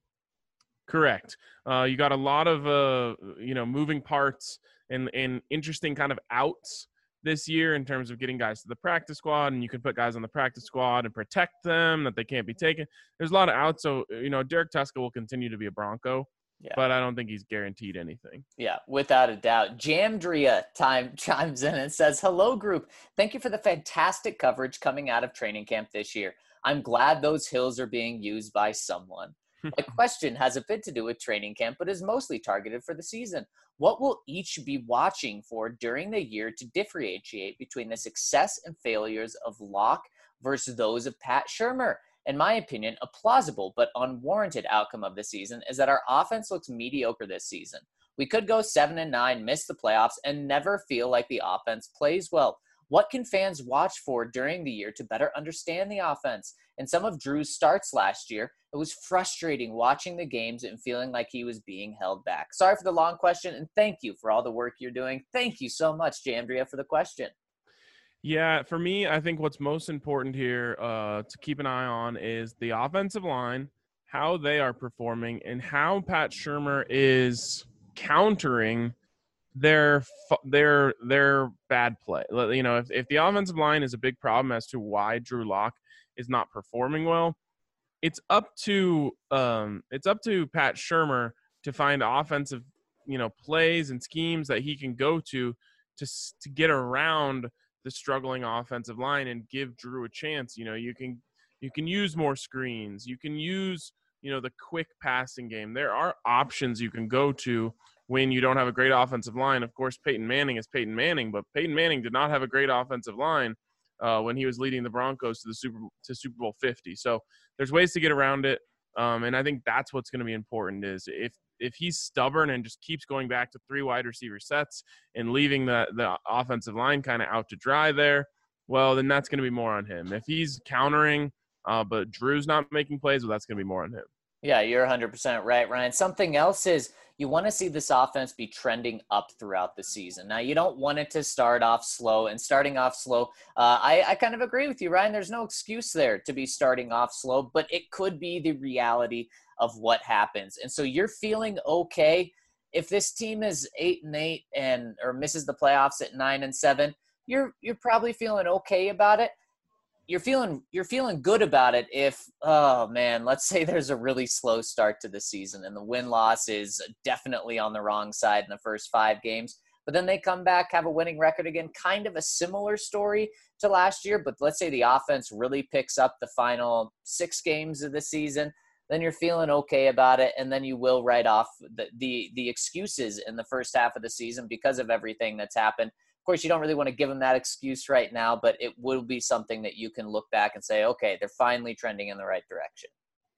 Correct. Uh, you got a lot of, uh, you know, moving parts and, and interesting kind of outs this year in terms of getting guys to the practice squad, and you can put guys on the practice squad and protect them that they can't be taken. There's a lot of outs. So, you know, Derek Tuszka will continue to be a Bronco, yeah, but I don't think he's guaranteed anything.
Yeah, without a doubt. Jamdria time chimes in and says, hello, group. Thank you for the fantastic coverage coming out of training camp this year. I'm glad those hills are being used by someone. My question has a bit to do with training camp, but is mostly targeted for the season. What will each be watching for during the year to differentiate between the success and failures of Locke versus those of Pat Shurmur? In my opinion, a plausible but unwarranted outcome of the season is that our offense looks mediocre this season. We could go seven and nine, miss the playoffs, and never feel like the offense plays well. What can fans watch for during the year to better understand the offense? In some of Drew's starts last year, it was frustrating watching the games and feeling like he was being held back. Sorry for the long question, and thank you for all the work you're doing. Thank you so much, Jamdria, for the question.
Yeah, for me, I think what's most important here uh, to keep an eye on is the offensive line, how they are performing, and how Pat Shurmur is countering their their their bad play. You know, if, if the offensive line is a big problem as to why Drew Lock is not performing well, it's up to um it's up to Pat Shurmur to find offensive, you know, plays and schemes that he can go to to to get around the struggling offensive line and give Drew a chance. You know, you can you can use more screens, you can use, you know, the quick passing game. There are options you can go to when you don't have a great offensive line. Of course, Peyton Manning is Peyton Manning, but Peyton Manning did not have a great offensive line uh, when he was leading the Broncos to the Super to Super Bowl fifty. So there's ways to get around it, um, and I think that's what's going to be important. Is if if he's stubborn and just keeps going back to three wide receiver sets and leaving the the offensive line kind of out to dry there, well, then that's going to be more on him. If he's countering, uh, but Drew's not making plays, well, that's going to be more on him.
Yeah, you're one hundred percent right, Ryan. Something else is you want to see this offense be trending up throughout the season. Now, you don't want it to start off slow, and starting off slow, uh, I, I kind of agree with you, Ryan. There's no excuse there to be starting off slow, but it could be the reality of what happens. And so you're feeling okay if this team is eight and eight and or misses the playoffs at nine and seven. You're you're probably feeling okay about it. You're feeling you're feeling good about it if, oh man, let's say there's a really slow start to the season and the win-loss is definitely on the wrong side in the first five games. But then they come back, have a winning record again, kind of a similar story to last year. But let's say the offense really picks up the final six games of the season, then you're feeling okay about it, and then you will write off the the, the excuses in the first half of the season because of everything that's happened. Of course, you don't really want to give them that excuse right now, but it will be something that you can look back and say, okay, they're finally trending in the right direction.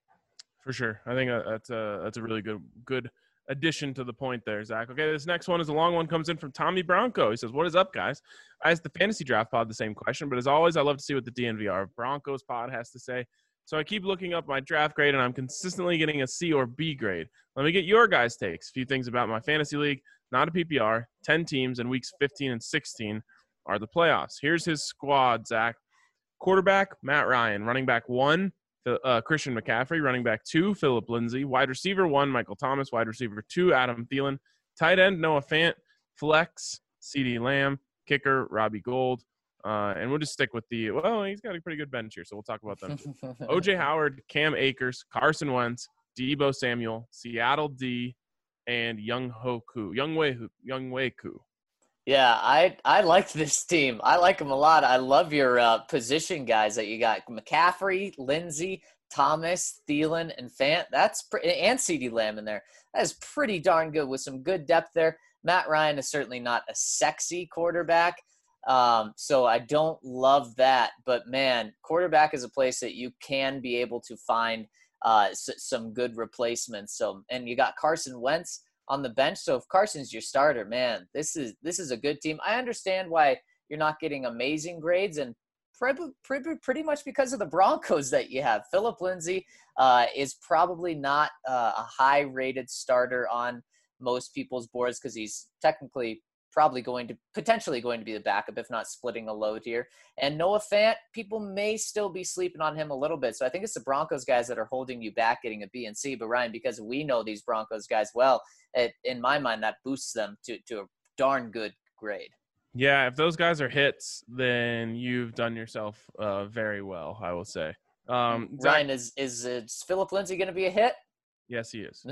For sure. I think that's a, that's a really good good addition to the point there, Zach. Okay, this next one is a long one, comes in from Tommy Bronco. He says, what is up, guys? I asked the Fantasy Draft Pod the same question, but as always, I love to see what the D N V R Broncos pod has to say. So I keep looking up my draft grade, and I'm consistently getting a C or B grade. Let me get your guys' takes. A few things about my fantasy league. Not a P P R, ten teams, and weeks fifteen and sixteen are the playoffs. Here's his squad, Zach. Quarterback, Matt Ryan. Running back one, uh, Christian McCaffrey. Running back two, Philip Lindsay. Wide receiver one, Michael Thomas. Wide receiver two, Adam Thielen. Tight end, Noah Fant. Flex, CeeDee Lamb. Kicker, Robbie Gould. Uh, and we'll just stick with the – well, he's got a pretty good bench here, so we'll talk about them. O J Howard, Cam Akers, Carson Wentz, Deebo Samuel, Seattle D, and Young Hoku, Young Wei, Young Wei Ku.
Yeah, I I like this team. I like them a lot. I love your uh, position guys that you got: McCaffrey, Lindsey, Thomas, Thielen, and Fant. That's pre- and CeeDee Lamb in there. That is pretty darn good with some good depth there. Matt Ryan is certainly not a sexy quarterback, um, so I don't love that. But man, quarterback is a place that you can be able to find uh, s- some good replacements. So, and you got Carson Wentz on the bench. So if Carson's your starter, man, this is this is a good team. I understand why you're not getting amazing grades, and pretty, pretty, pretty much because of the Broncos that you have. Philip Lindsay uh, is probably not uh, a high-rated starter on most people's boards because he's technically probably going to potentially going to be the backup, if not splitting a load here. And Noah Fant, people may still be sleeping on him a little bit. So I think it's the Broncos guys that are holding you back getting a B and C. But Ryan, because we know these Broncos guys well, it, in my mind, that boosts them to, to a darn good grade.
Yeah, if those guys are hits, then you've done yourself uh, very well, I will say. Um,
Ryan, is, is, is Philip Lindsay going to be a hit?
Yes, he is.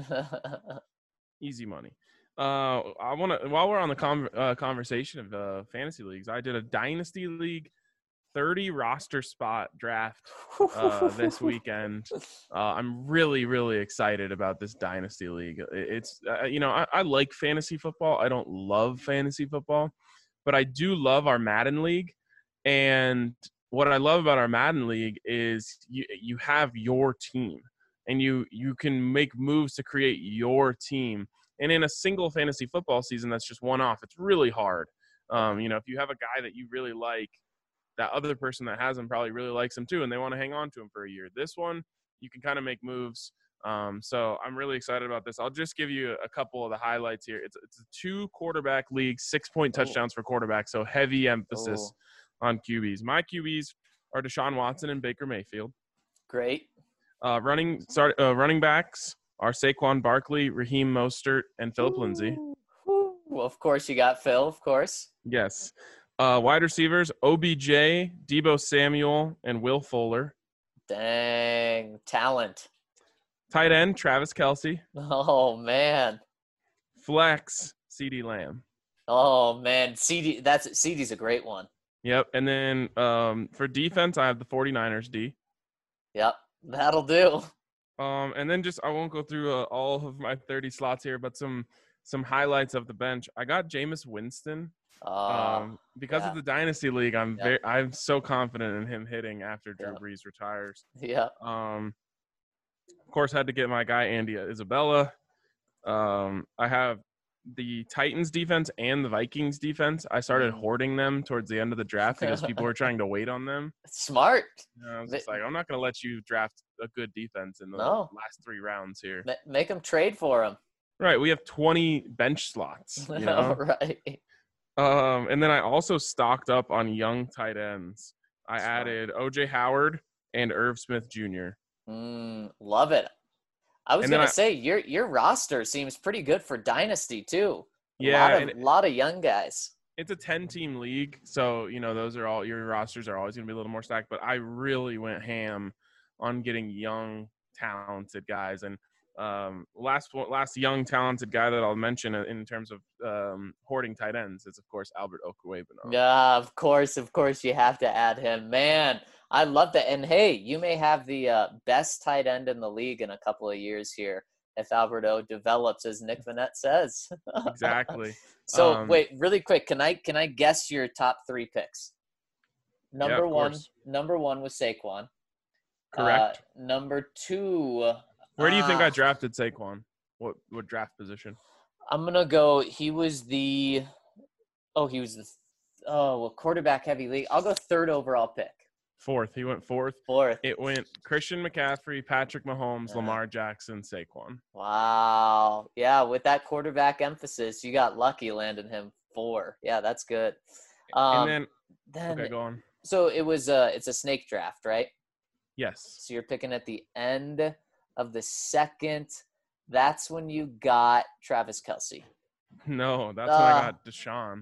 Easy money. Uh, I want to, while we're on the con- uh, conversation of uh, fantasy leagues, I did a dynasty league thirty roster spot draft uh, this weekend. Uh, I'm really, really excited about this dynasty league. It's, uh, you know, I, I like fantasy football. I don't love fantasy football, but I do love our Madden league. And what I love about our Madden league is you, you have your team, and you, you can make moves to create your team. And in a single fantasy football season, that's just one off. It's really hard. Um, you know, if you have a guy that you really like, that other person that has him probably really likes him too, and they want to hang on to him for a year. This one, you can kind of make moves. Um, so I'm really excited about this. I'll just give you a couple of the highlights here. It's, it's a two quarterback league, six point touchdowns for quarterbacks. So heavy emphasis oh. on Q Bs. My Q Bs are Deshaun Watson and Baker Mayfield.
Great.
Uh, running start uh, running backs are Saquon Barkley, Raheem Mostert, and Philip Lindsay.
Well, of course, you got Phil, of course.
Yes. Uh, wide receivers, O B J, Deebo Samuel, and Will Fuller.
Dang. Talent.
Tight end, Travis Kelce.
Oh, man.
Flex, CeeDee Lamb.
Oh, man. CD, that's CeeDee's a great one.
Yep. And then um, for defense, I have the 49ers D.
Yep. That'll do.
Um, and then just I won't go through uh, all of my thirty slots here, but some some highlights of the bench. I got Jameis Winston.
Uh,
um, because
yeah.
of the dynasty league, I'm
Yep.
very I'm so confident in him hitting after Drew
Yep.
Brees retires.
Yeah.
Um, of course, had to get my guy Andy Isabella. Um, I have the Titans defense and the Vikings defense. I started
Mm.
hoarding them towards the end of the draft because people were trying to wait on them.
Smart.
And I was
They-
just like, I'm not going to let you draft a good defense in the
No.
last three rounds here.
Ma- Make them trade for him.
Right. We have twenty bench slots, you know?
Right.
Um, and then I also stocked up on young tight ends. I
Smart.
added O J Howard and Irv Smith Junior
Mm, love it. I was
And then
gonna
I-
say your your roster seems pretty good for dynasty too. A
Yeah,
lot of,
and-
lot of young guys.
It's a ten-team league, so, you know, those are all – your rosters are always going to be a little more stacked. But I really went ham on getting young, talented guys. And um, last last young, talented guy that I'll mention in terms of um, hoarding tight ends is, of course, Albert Okwuegbunam.
Yeah, of course, of course, you have to add him. Man, I love that. And hey, you may have the uh, best tight end in the league in a couple of years here if Alberto develops, as Nick Vanette says.
Exactly.
So
Um,
wait, really quick, can I can I guess your top three picks? Number
of
one,
course.
number one was Saquon.
Correct.
Uh, number two.
Where do you think I
ah,
drafted Saquon? What what draft position?
I'm gonna go. He was the. Oh, he was the. Oh, well, quarterback heavy league. I'll go third overall pick.
Fourth. He went fourth.
Fourth.
It went Christian McCaffrey, Patrick Mahomes,
Yeah.
Lamar Jackson, Saquon.
Wow. Yeah, with that quarterback emphasis, you got lucky landing him four. Yeah, that's good. Um,
and then,
then
okay, go on.
so it was a it's a snake draft, right?
Yes.
So you're picking at the end of the second. That's when you got Travis Kelce.
No, that's when
Uh,
I got Deshaun.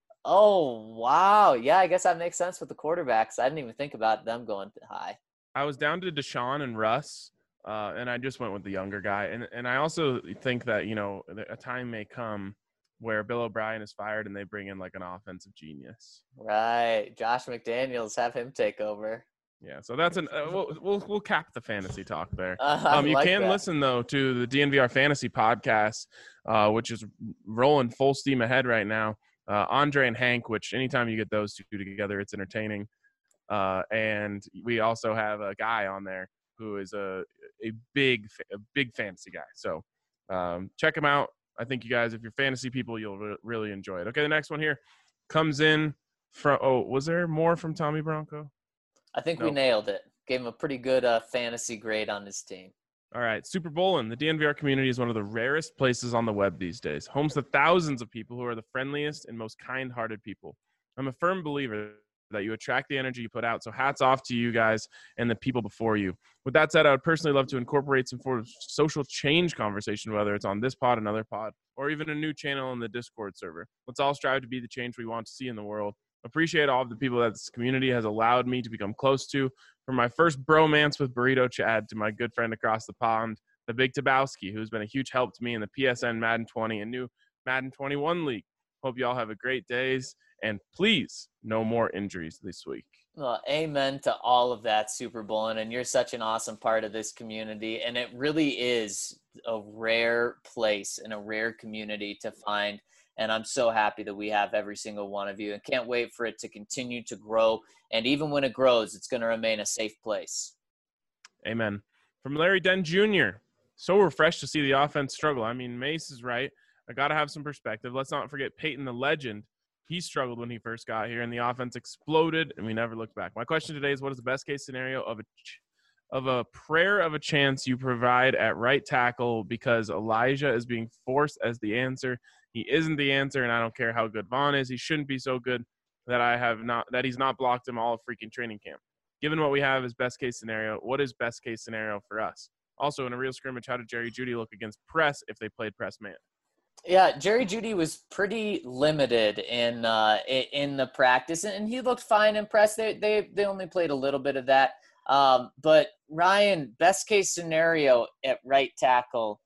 Oh wow. Yeah, I guess that makes sense with the quarterbacks. I didn't even think about them going high.
I was down to Deshaun and Russ, uh, and I just went with the younger guy. And and I also think that, you know, a time may come where Bill O'Brien is fired and they bring in like an offensive genius.
Right. Josh McDaniels, have him take over.
Yeah, so that's an uh, we'll, we'll we'll cap the fantasy talk there.
Uh, I
Um, you
like
can
that.
listen though to the D N V R Fantasy Podcast, uh, which is rolling full steam ahead right now. Uh, Andre and Hank, which anytime you get those two together, it's entertaining. Uh, and we also have a guy on there who is a a big a big fantasy guy. So um, check him out. I think you guys, if you're fantasy people, you'll re- really enjoy it. Okay, the next one here comes in from. Oh, was there more from Tommy Bronco?
I think we
Nope.
nailed it. Gave him a pretty good uh, fantasy grade on his team.
All right, Super Bowlin'. The D N V R community is one of the rarest places on the web these days, homes to thousands of people who are the friendliest and most kind-hearted people. I'm a firm believer that you attract the energy you put out, so hats off to you guys and the people before you. With that said, I would personally love to incorporate some sort of social change conversation, whether it's on this pod, another pod, or even a new channel in the Discord server. Let's all strive to be the change we want to see in the world. Appreciate all of the people that this community has allowed me to become close to. From my first bromance with Burrito Chad to my good friend across the pond, the Big Tabowski, who's been a huge help to me in the P S N Madden twenty and new Madden twenty-one league. Hope you all have a great days, and please, no more injuries this week.
Well, amen to all of that, Super Bowl, and you're such an awesome part of this community, and it really is a rare place and a rare community to find. And I'm so happy that we have every single one of you and can't wait for it to continue to grow. And even when it grows, it's going to remain a safe place.
Amen. From Larry Dent Junior So refreshed to see the offense struggle. I mean, Mace is right. I got to have some perspective. Let's not forget Peyton the legend. He struggled when he first got here, and the offense exploded, and we never looked back. My question today is, what is the best case scenario of a ch- of a prayer of a chance you provide at right tackle because Elijah is being forced as the answer? He isn't the answer, and I don't care how good Vaughn is. He shouldn't be so good that I have not that he's not blocked him all of freaking training camp. Given what we have as best case scenario, what is best case scenario for us? Also, in a real scrimmage, how did Jerry Jeudy look against press if they played press man?
Yeah, Jerry Jeudy was pretty limited in uh, i- in the practice, and he looked fine in press. They they they only played a little bit of that. Um, but Ryan, best case scenario at right tackle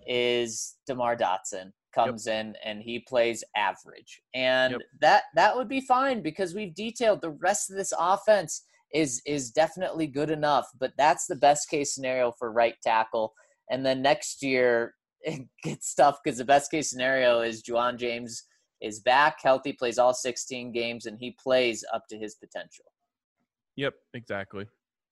is DeMar Dotson comes yep. in and he plays average, and yep. that that would be fine because we've detailed the rest of this offense is is definitely good enough. But that's the best case scenario for right tackle, and then next year it gets tough because the best case scenario is Juwan James is back, healthy, plays all sixteen games, and he plays up to his potential.
Yep, exactly.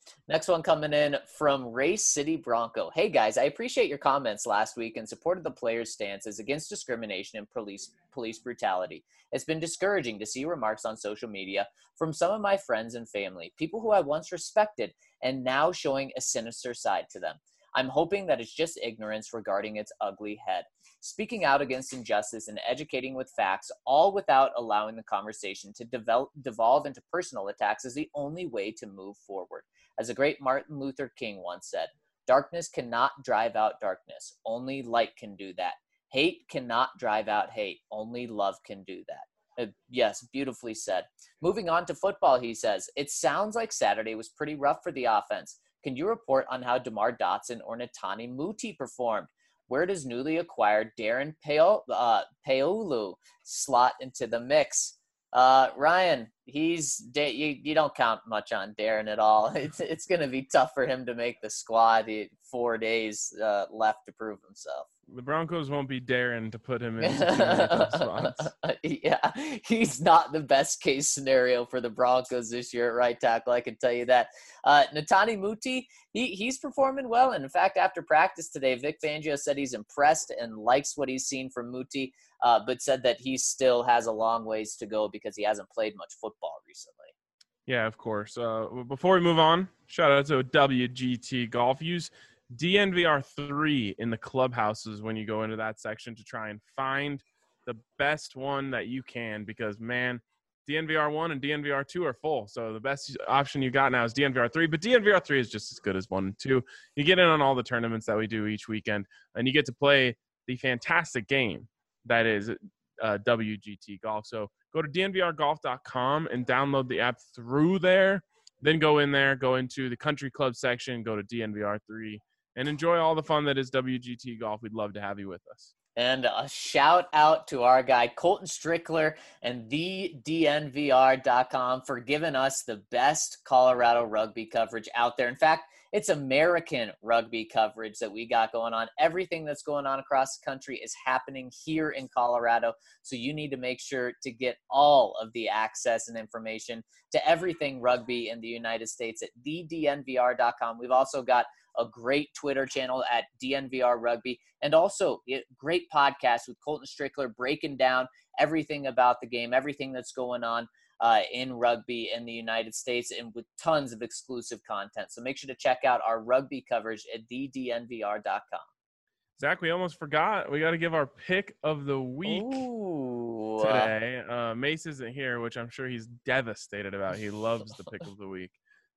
Next one coming in from Race City Bronco. Hey guys, I appreciate your comments last week and supported the players' stances against discrimination and police police brutality. It's been discouraging to see remarks on social media from some of my friends and family, people who I once respected and now showing a sinister side to them. I'm hoping that it's just ignorance regarding its ugly head. Speaking out against injustice and educating with facts, all without allowing the conversation to develop, devolve into personal attacks, is the only way to move forward. As the great Martin Luther King once said, darkness cannot drive out darkness. Only light can do that. Hate cannot drive out hate. Only love can do that. Uh, yes, beautifully said. Moving on to football, he says, it sounds like Saturday was pretty rough for the offense. Can you report on how DeMar Dotson or Netani Muti performed? Where does newly acquired Darren Paolo, uh, Paolu slot into the mix? Uh, Ryan, he's you, you don't count much on Darren at all. It's it's going to be tough for him to make the squad. He, four days uh, left to prove himself.
The Broncos won't be daring to put him into too many tough spots.
Yeah, he's not the best case scenario for the Broncos this year at right tackle. I can tell you that. Uh, Netani Muti, he he's performing well. And in fact, after practice today, Vic Fangio said he's impressed and likes what he's seen from Muti, uh, but said that he still has a long ways to go because he hasn't played much football recently.
Yeah, of course. Uh, before we move on, shout out to W G T Golf. Use D N V R three in the clubhouses when you go into that section to try and find the best one that you can, because, man, D N V R one and D N V R two are full. So the best option you got now is D N V R three, but D N V R three is just as good as one and two. You get in on all the tournaments that we do each weekend, and you get to play the fantastic game that is uh, W G T Golf. So go to D N V R golf dot com and download the app through there. Then go in there, go into the country club section, go to D N V R three, and enjoy all the fun that is W G T Golf. We'd love to have you with us.
And a shout out to our guy, Colton Strickler and the D N V R dot com for giving us the best Colorado rugby coverage out there. In fact, it's American rugby coverage that we got going on. Everything that's going on across the country is happening here in Colorado. So you need to make sure to get all of the access and information to everything rugby in the United States at the D N V R dot com. We've also got a great Twitter channel at D N V R Rugby, and also a great podcast with Colton Strickler breaking down everything about the game, everything that's going on uh, in rugby in the United States, and with tons of exclusive content. So make sure to check out our rugby coverage at the D N V R dot com.
Zach, we almost forgot. We got to give our pick of the week
Ooh.
today. Uh, Mace isn't here, which I'm sure he's devastated about. He loves the pick of the week.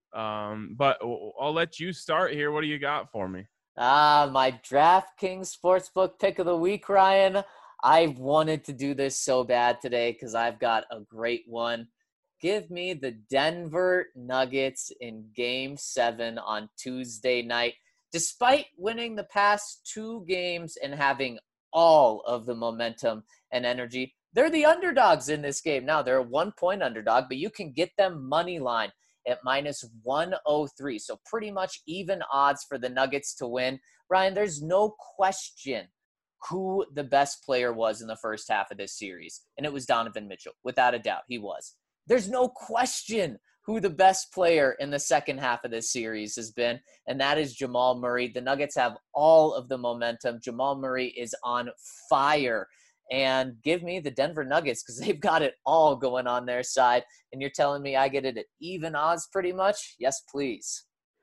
Um, but I'll let you start here. What do you got for me?
Ah, my DraftKings Sportsbook pick of the week, Ryan. I wanted to do this so bad today because I've got a great one. Give me the Denver Nuggets in Game seven on Tuesday night. Despite winning the past two games and having all of the momentum and energy, they're the underdogs in this game. Now, they're a one-point underdog, but you can get them money line at minus one oh three. So pretty much even odds for the Nuggets to win. Ryan, there's no question who the best player was in the first half of this series, and it was Donovan Mitchell. Without a doubt, he was. There's no question who the best player in the second half of this series has been, and that is Jamal Murray. The Nuggets have all of the momentum. Jamal Murray is on fire. And give me the Denver Nuggets because they've got it all going on their side. And you're telling me I get it at even odds pretty much? Yes, please.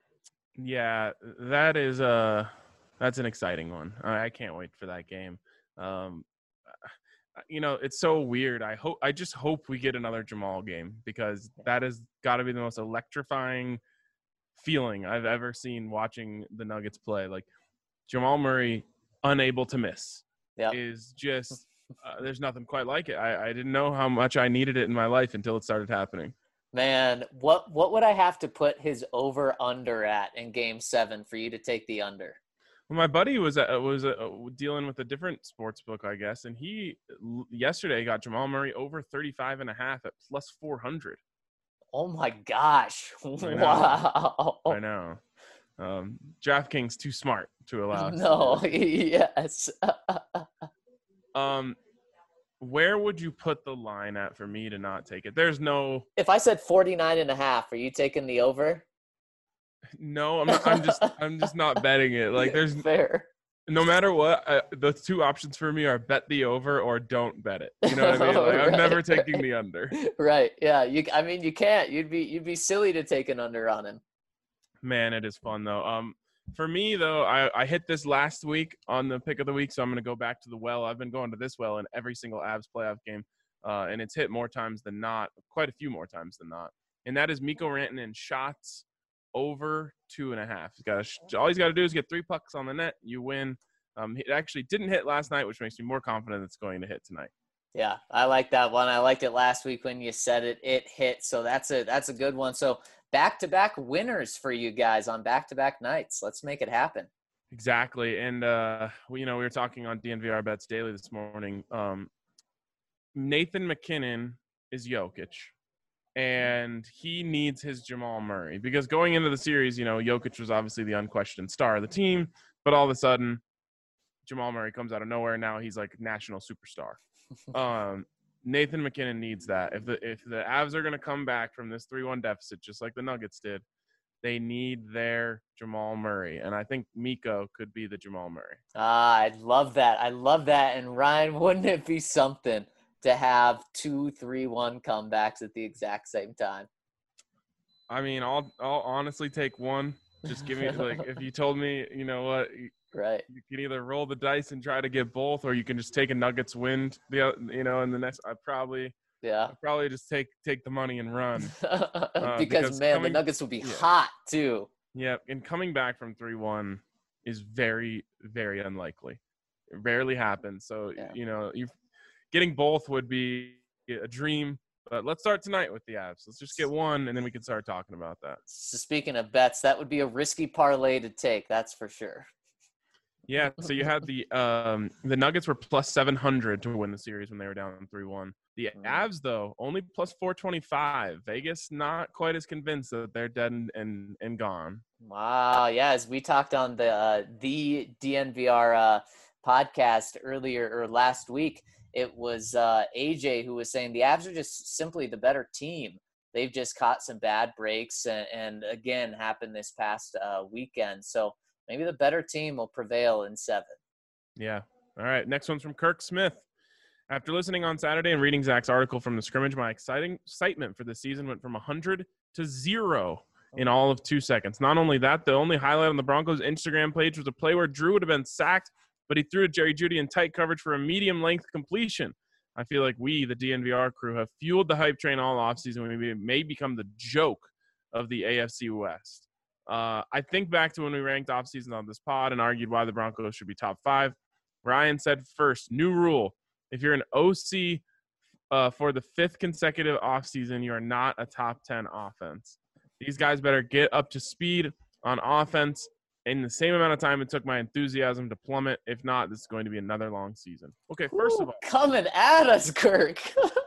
Yeah, that is a that's an exciting one. I can't wait for that game. Um, you know, it's so weird. I hope I just hope we get another Jamal game because that has got to be the most electrifying feeling I've ever seen watching the Nuggets play. Like Jamal Murray, unable to miss,
yep.
is just. Uh, there's nothing quite like it. I, I didn't know how much I needed it in my life until it started happening.
Man, what what would I have to put his over-under at in Game seven for you to take the under?
Well, my buddy was uh, was uh, dealing with a different sports book, I guess, and he l- yesterday got Jamal Murray over thirty-five and a half at plus four hundred.
Oh, my gosh.
I
Wow.
I know. Um, DraftKings too smart to allow us.
No, yes.
Um, where would you put the line at for me to not take it? There's no.
If I said forty-nine and a half, are you taking the over?
No, I'm not, I'm just I'm just not betting it. Like there's
fair.
No matter what, uh, the two options for me are bet the over or don't bet it. You know what I mean? Like I'm
Right,
never taking
right.
the under.
Right. Yeah. You. I mean, you can't. You'd be. You'd be silly to take an under on him.
Man, it is fun though. Um, for me though, I, I hit this last week on the pick of the week, so I'm going to go back to the well. I've been going to this well in every single Avs playoff game, uh, and it's hit more times than not, quite a few more times than not. And that is Mikko Rantanen shots over two and a half. He's got a, all he's got to do is get three pucks on the net. You win. Um, it actually didn't hit last night, which makes me more confident it's going to hit tonight.
Yeah, I like that one. I liked it last week when you said it. It hit, so that's a that's a good one. So back-to-back winners for you guys on back-to-back nights. Let's make it happen.
Exactly, and uh, we, you know, we were talking on D N V R Bets Daily this morning. Um, Nathan MacKinnon is Jokic, and he needs his Jamal Murray because going into the series, you know, Jokic was obviously the unquestioned star of the team, but all of a sudden, Jamal Murray comes out of nowhere. Now he's like national superstar. Um, Nathan MacKinnon needs that. If the if the Avs are going to come back from this three one deficit, just like the Nuggets did, they need their Jamal Murray. And I think Mikko could be the Jamal Murray.
Ah, I love that. I love that. And Ryan, wouldn't it be something to have two three one comebacks at the exact same time?
I mean, I'll I'll honestly take one. Just give me like if you told me, you know what,
right?
You can either roll the dice and try to get both, or you can just take a Nuggets win. The you know, and the next I probably
yeah
I'd probably just take take the money and run
uh, because,
because
man,
coming,
the Nuggets will be
yeah.
hot too.
Yeah, and coming back from three one is very very unlikely. It rarely happens. So
yeah.
you know, you getting both would be a dream. But let's start tonight with the Avs. Let's just get one, and then we can start talking about that.
So speaking of bets, that would be a risky parlay to take. That's for sure.
Yeah, so you had the um, the Nuggets were plus seven hundred to win the series when they were down three one. The Avs, though, only plus four twenty-five. Vegas not quite as convinced that they're dead and, and, and gone.
Wow, yeah, as we talked on the uh, the D N V R uh, podcast earlier or last week, it was uh, A J who was saying the Avs are just simply the better team. They've just caught some bad breaks and, and again, happened this past uh, weekend. So maybe the better team will prevail in seven.
Yeah. All right. Next one's from Kirk Smith. After listening on Saturday and reading Zach's article from the scrimmage, my exciting excitement for the season went from one hundred to zero in all of two seconds. Not only that, the only highlight on the Broncos' Instagram page was a play where Drew would have been sacked, but he threw to Jerry Jeudy in tight coverage for a medium-length completion. I feel like we, the D N V R crew, have fueled the hype train all offseason. We may become the joke of the A F C West. Uh, I think back to when we ranked offseason on this pod and argued why the Broncos should be top five. Ryan said first, new rule. If you're an O C uh, for the fifth consecutive offseason, you are not a top ten offense. These guys better get up to speed on offense in the same amount of time it took my enthusiasm to plummet. If not, this is going to be another long season. Okay, first
Ooh,
of all.
Coming at us, Kirk.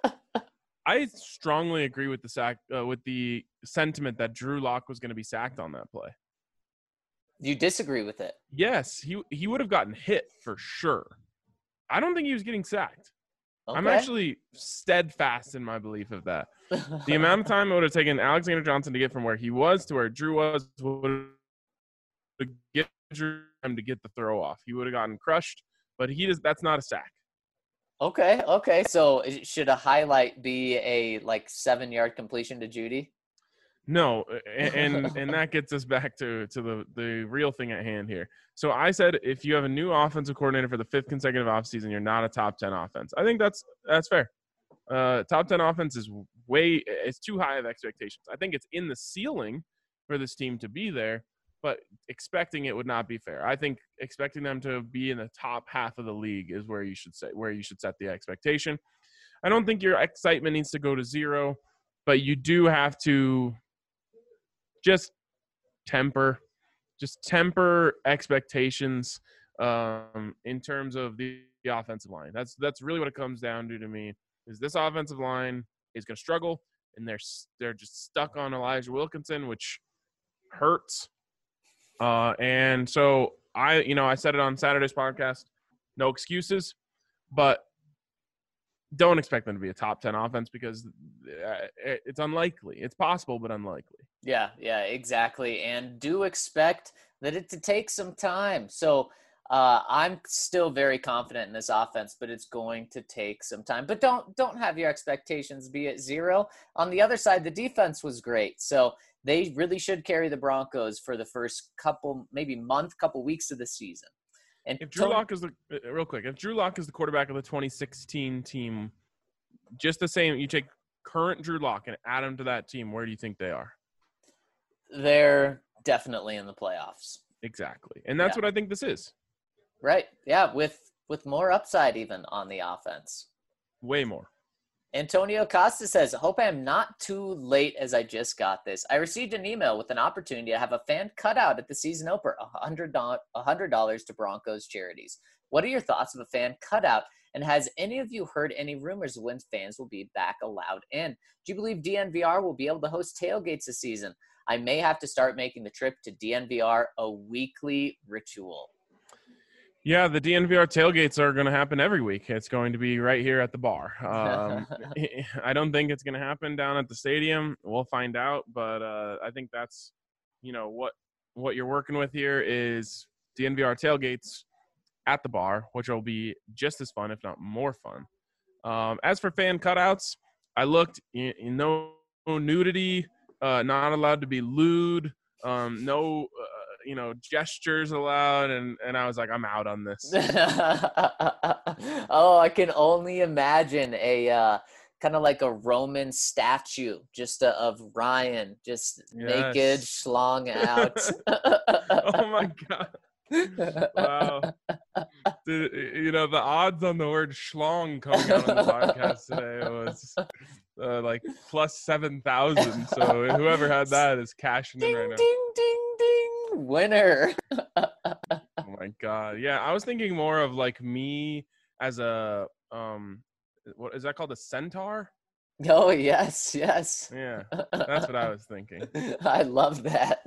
I strongly agree with the sack uh, with the sentiment that Drew Lock was going to be sacked on that play.
You disagree with it?
Yes, he he would have gotten hit for sure. I don't think he was getting sacked.
Okay.
I'm actually steadfast in my belief of that. The amount of time it would have taken Alexander Johnson to get from where he was to where Drew was would have get Drew time to get the throw off. He would have gotten crushed, but he does. That's not a sack.
Okay, okay. So should a highlight be a like seven yard completion to Jeudy?
No, and, and and that gets us back to to the the real thing at hand here. So I said if you have a new offensive coordinator for the fifth consecutive offseason, you're not a top ten offense. I think that's that's fair. Uh, top ten offense is way it's too high of expectations. I think it's in the ceiling for this team to be there, but expecting it would not be fair. I think expecting them to be in the top half of the league is where you should say where you should set the expectation. I don't think your excitement needs to go to zero, but you do have to just temper, just temper expectations um, in terms of the, the offensive line. That's that's really what it comes down to to me. Is this offensive line is going to struggle, and they're they're just stuck on Elijah Wilkinson, which hurts. Uh, and so I, you know, I said it on Saturday's podcast, no excuses, but don't expect them to be a top ten offense because it's unlikely. It's possible, but unlikely.
Yeah, yeah, exactly. And do expect that it to take some time. So uh, I'm still very confident in this offense, but it's going to take some time. But don't don't have your expectations be at zero. On the other side, the defense was great. So they really should carry the Broncos for the first couple, maybe month, couple weeks of the season. And
If Drew
Tony-
Lock is the uh, real quick, if Drew Lock is the quarterback of the twenty sixteen team, just the same, you take current Drew Lock and add him to that team, where do you think they are?
they're definitely in the playoffs.
Exactly. And that's
Yeah.
what I think this is.
Right. Yeah, with with more upside even on the offense.
Way more.
Antonio Costa says, hope I'm not too late as I just got this. I received an email with an opportunity to have a fan cutout at the season opener, one hundred dollars to Broncos charities. What are your thoughts of a fan cutout? And has any of you heard any rumors of when fans will be back allowed in? Do you believe D N V R will be able to host tailgates this season? I may have to start making the trip to D N V R a weekly ritual.
Yeah, the D N V R tailgates are going to happen every week. It's going to be right here at the bar. Um, I don't think it's going to happen down at the stadium. We'll find out, but uh, I think that's, you know, what what you're working with here is D N V R tailgates at the bar, which will be just as fun, if not more fun. Um, as for fan cutouts, I looked, you know, no nudity, uh, not allowed to be lewd, um, no. Uh, you know, gestures allowed, and and I was like, I'm out on this.
Oh, I can only imagine a uh, kind of like a Roman statue, just uh, of Ryan, just
Yes.
naked, schlong out.
Oh my god! Wow, Dude, you know, the odds on the word schlong coming out on the podcast today was uh, like plus seven thousand. So whoever had that is cashing in
Ding,
right now.
ding, ding, ding, winner.
Oh my god! Yeah, I was thinking more of like me as a um, what is that called? A centaur?
Oh, yes, yes.
Yeah, that's what I was thinking.
I love that.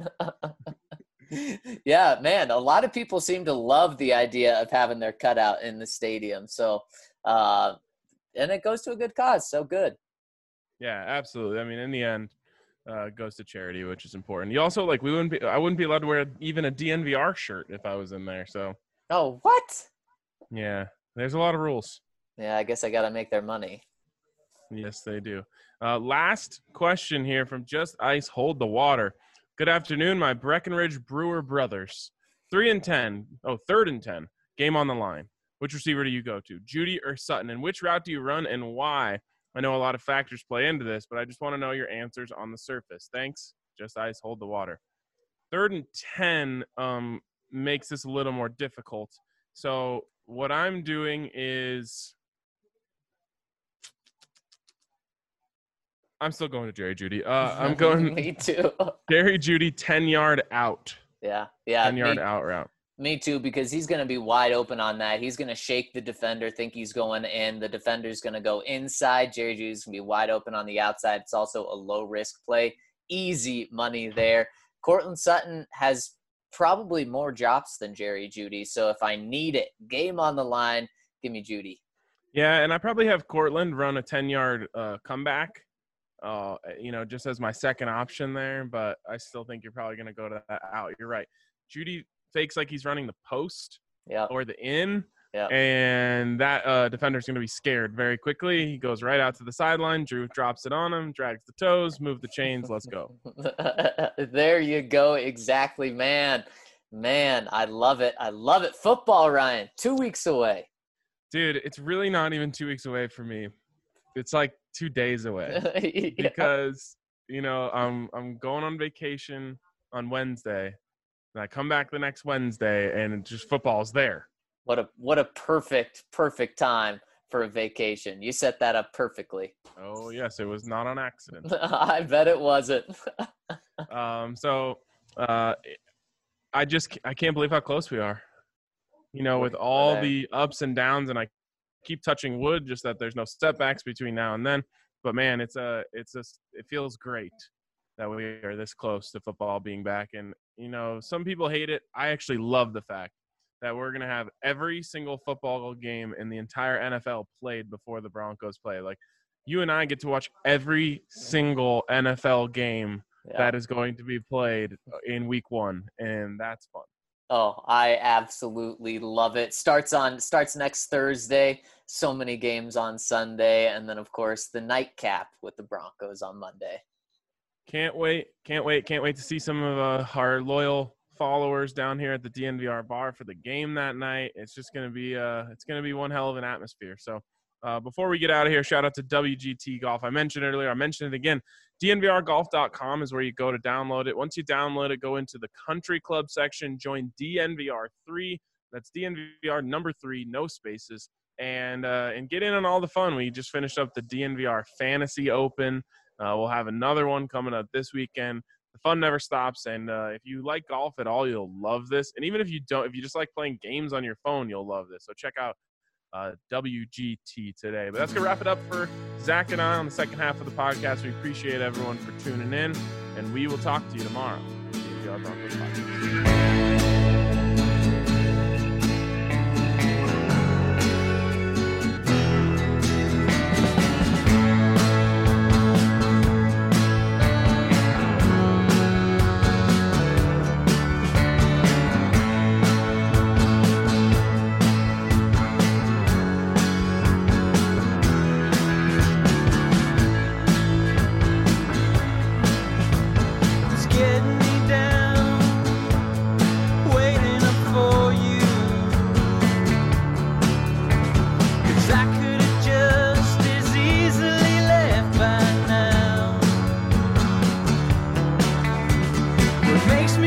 Yeah, man, a lot of people seem to love the idea of having their cutout in the stadium. So, uh, and it goes to a good cause. So good.
Yeah, absolutely. I mean, in the end, uh, it goes to charity, which is important. You also like we wouldn't be. I wouldn't be allowed to wear even a D N V R shirt if I was in there. So
Oh, what?
yeah, there's a lot of rules.
Yeah, I guess I got to make their money.
Yes, they do. Uh, last question here from Just Ice Hold the Water. Good afternoon, my Breckenridge Brewer brothers. Three and ten. Oh, third and ten. Game on the line. Which receiver do you go to, Judy or Sutton? And which route do you run and why? I know a lot of factors play into this, but I just want to know your answers on the surface. Thanks. Just Ice Hold the Water. Third and ten um, makes this a little more difficult. So what I'm doing is I'm still going to Jerry Judy. Uh, I'm going
Me too.
Jerry Judy ten-yard out.
Yeah, yeah.
ten-yard
me,
out route.
me too, because he's going to be wide open on that. He's going to shake the defender, think he's going in. The defender's going to go inside. Jerry Judy's going to be wide open on the outside. It's also a low-risk play. Easy money there. Cortland Sutton has probably more drops than Jerry Judy, so if I need it, game on the line, give me Judy.
Yeah, and I probably have Cortland run a ten-yard uh, comeback, uh, you know, just as my second option there, but I still think you're probably going to go to that out. You're right. Judy fakes like he's running the post
Yeah.
or the in,
Yeah.
and that uh, defender's going to be scared very quickly. He goes right out to the sideline. Drew drops it on him, drags the toes, move the chains. Let's go.
There you go. Exactly, man. Man, I love it. I love it. Football, Ryan, two weeks away.
Dude, it's really not even two weeks away for me. It's like two days away
Yeah.
because, you know, I'm I'm going on vacation on Wednesday, and I come back the next Wednesday, and it just football's there.
What a what a perfect perfect time for a vacation. You set that up perfectly.
Oh yes, it was not on accident.
I bet it wasn't.
Um, so uh, I just I can't believe how close we are. You know, with all
there.
the ups and downs, and I keep touching wood, just that there's no setbacks between now and then. But man, it's a it's a it feels great that we are this close to football being back. And you know, some people hate it. I actually love the fact that we're gonna have every single football game in the entire N F L played before the Broncos play. Like, you and I get to watch every single N F L game
Yeah.
that is going to be played in week one, and that's fun.
Oh, I absolutely love it. Starts on starts next Thursday. So many games on Sunday, and then of course the nightcap with the Broncos on Monday.
Can't wait! Can't wait! Can't wait to see some of uh, our loyal followers down here at the D N V R bar for the game that night. It's just gonna be uh, it's gonna be one hell of an atmosphere. So uh, before we get out of here, shout out to W G T Golf. I mentioned earlier. I mentioned it again. D N V R golf dot com is where you go to download it. Once you download it, go into the country club section, join D N V R three. That's D N V R number three, no spaces, and uh, and get in on all the fun. We just finished up the D N V R Fantasy Open. Uh, we'll have another one coming up this weekend. The fun never stops, and uh, if you like golf at all, you'll love this. And even if you don't, if you just like playing games on your phone, you'll love this. So check out uh, W G T today. But that's going to wrap it up for Zach and I on the second half of the podcast. We appreciate everyone for tuning in, and we will talk to you tomorrow. D N V R Broncos Podcast. Makes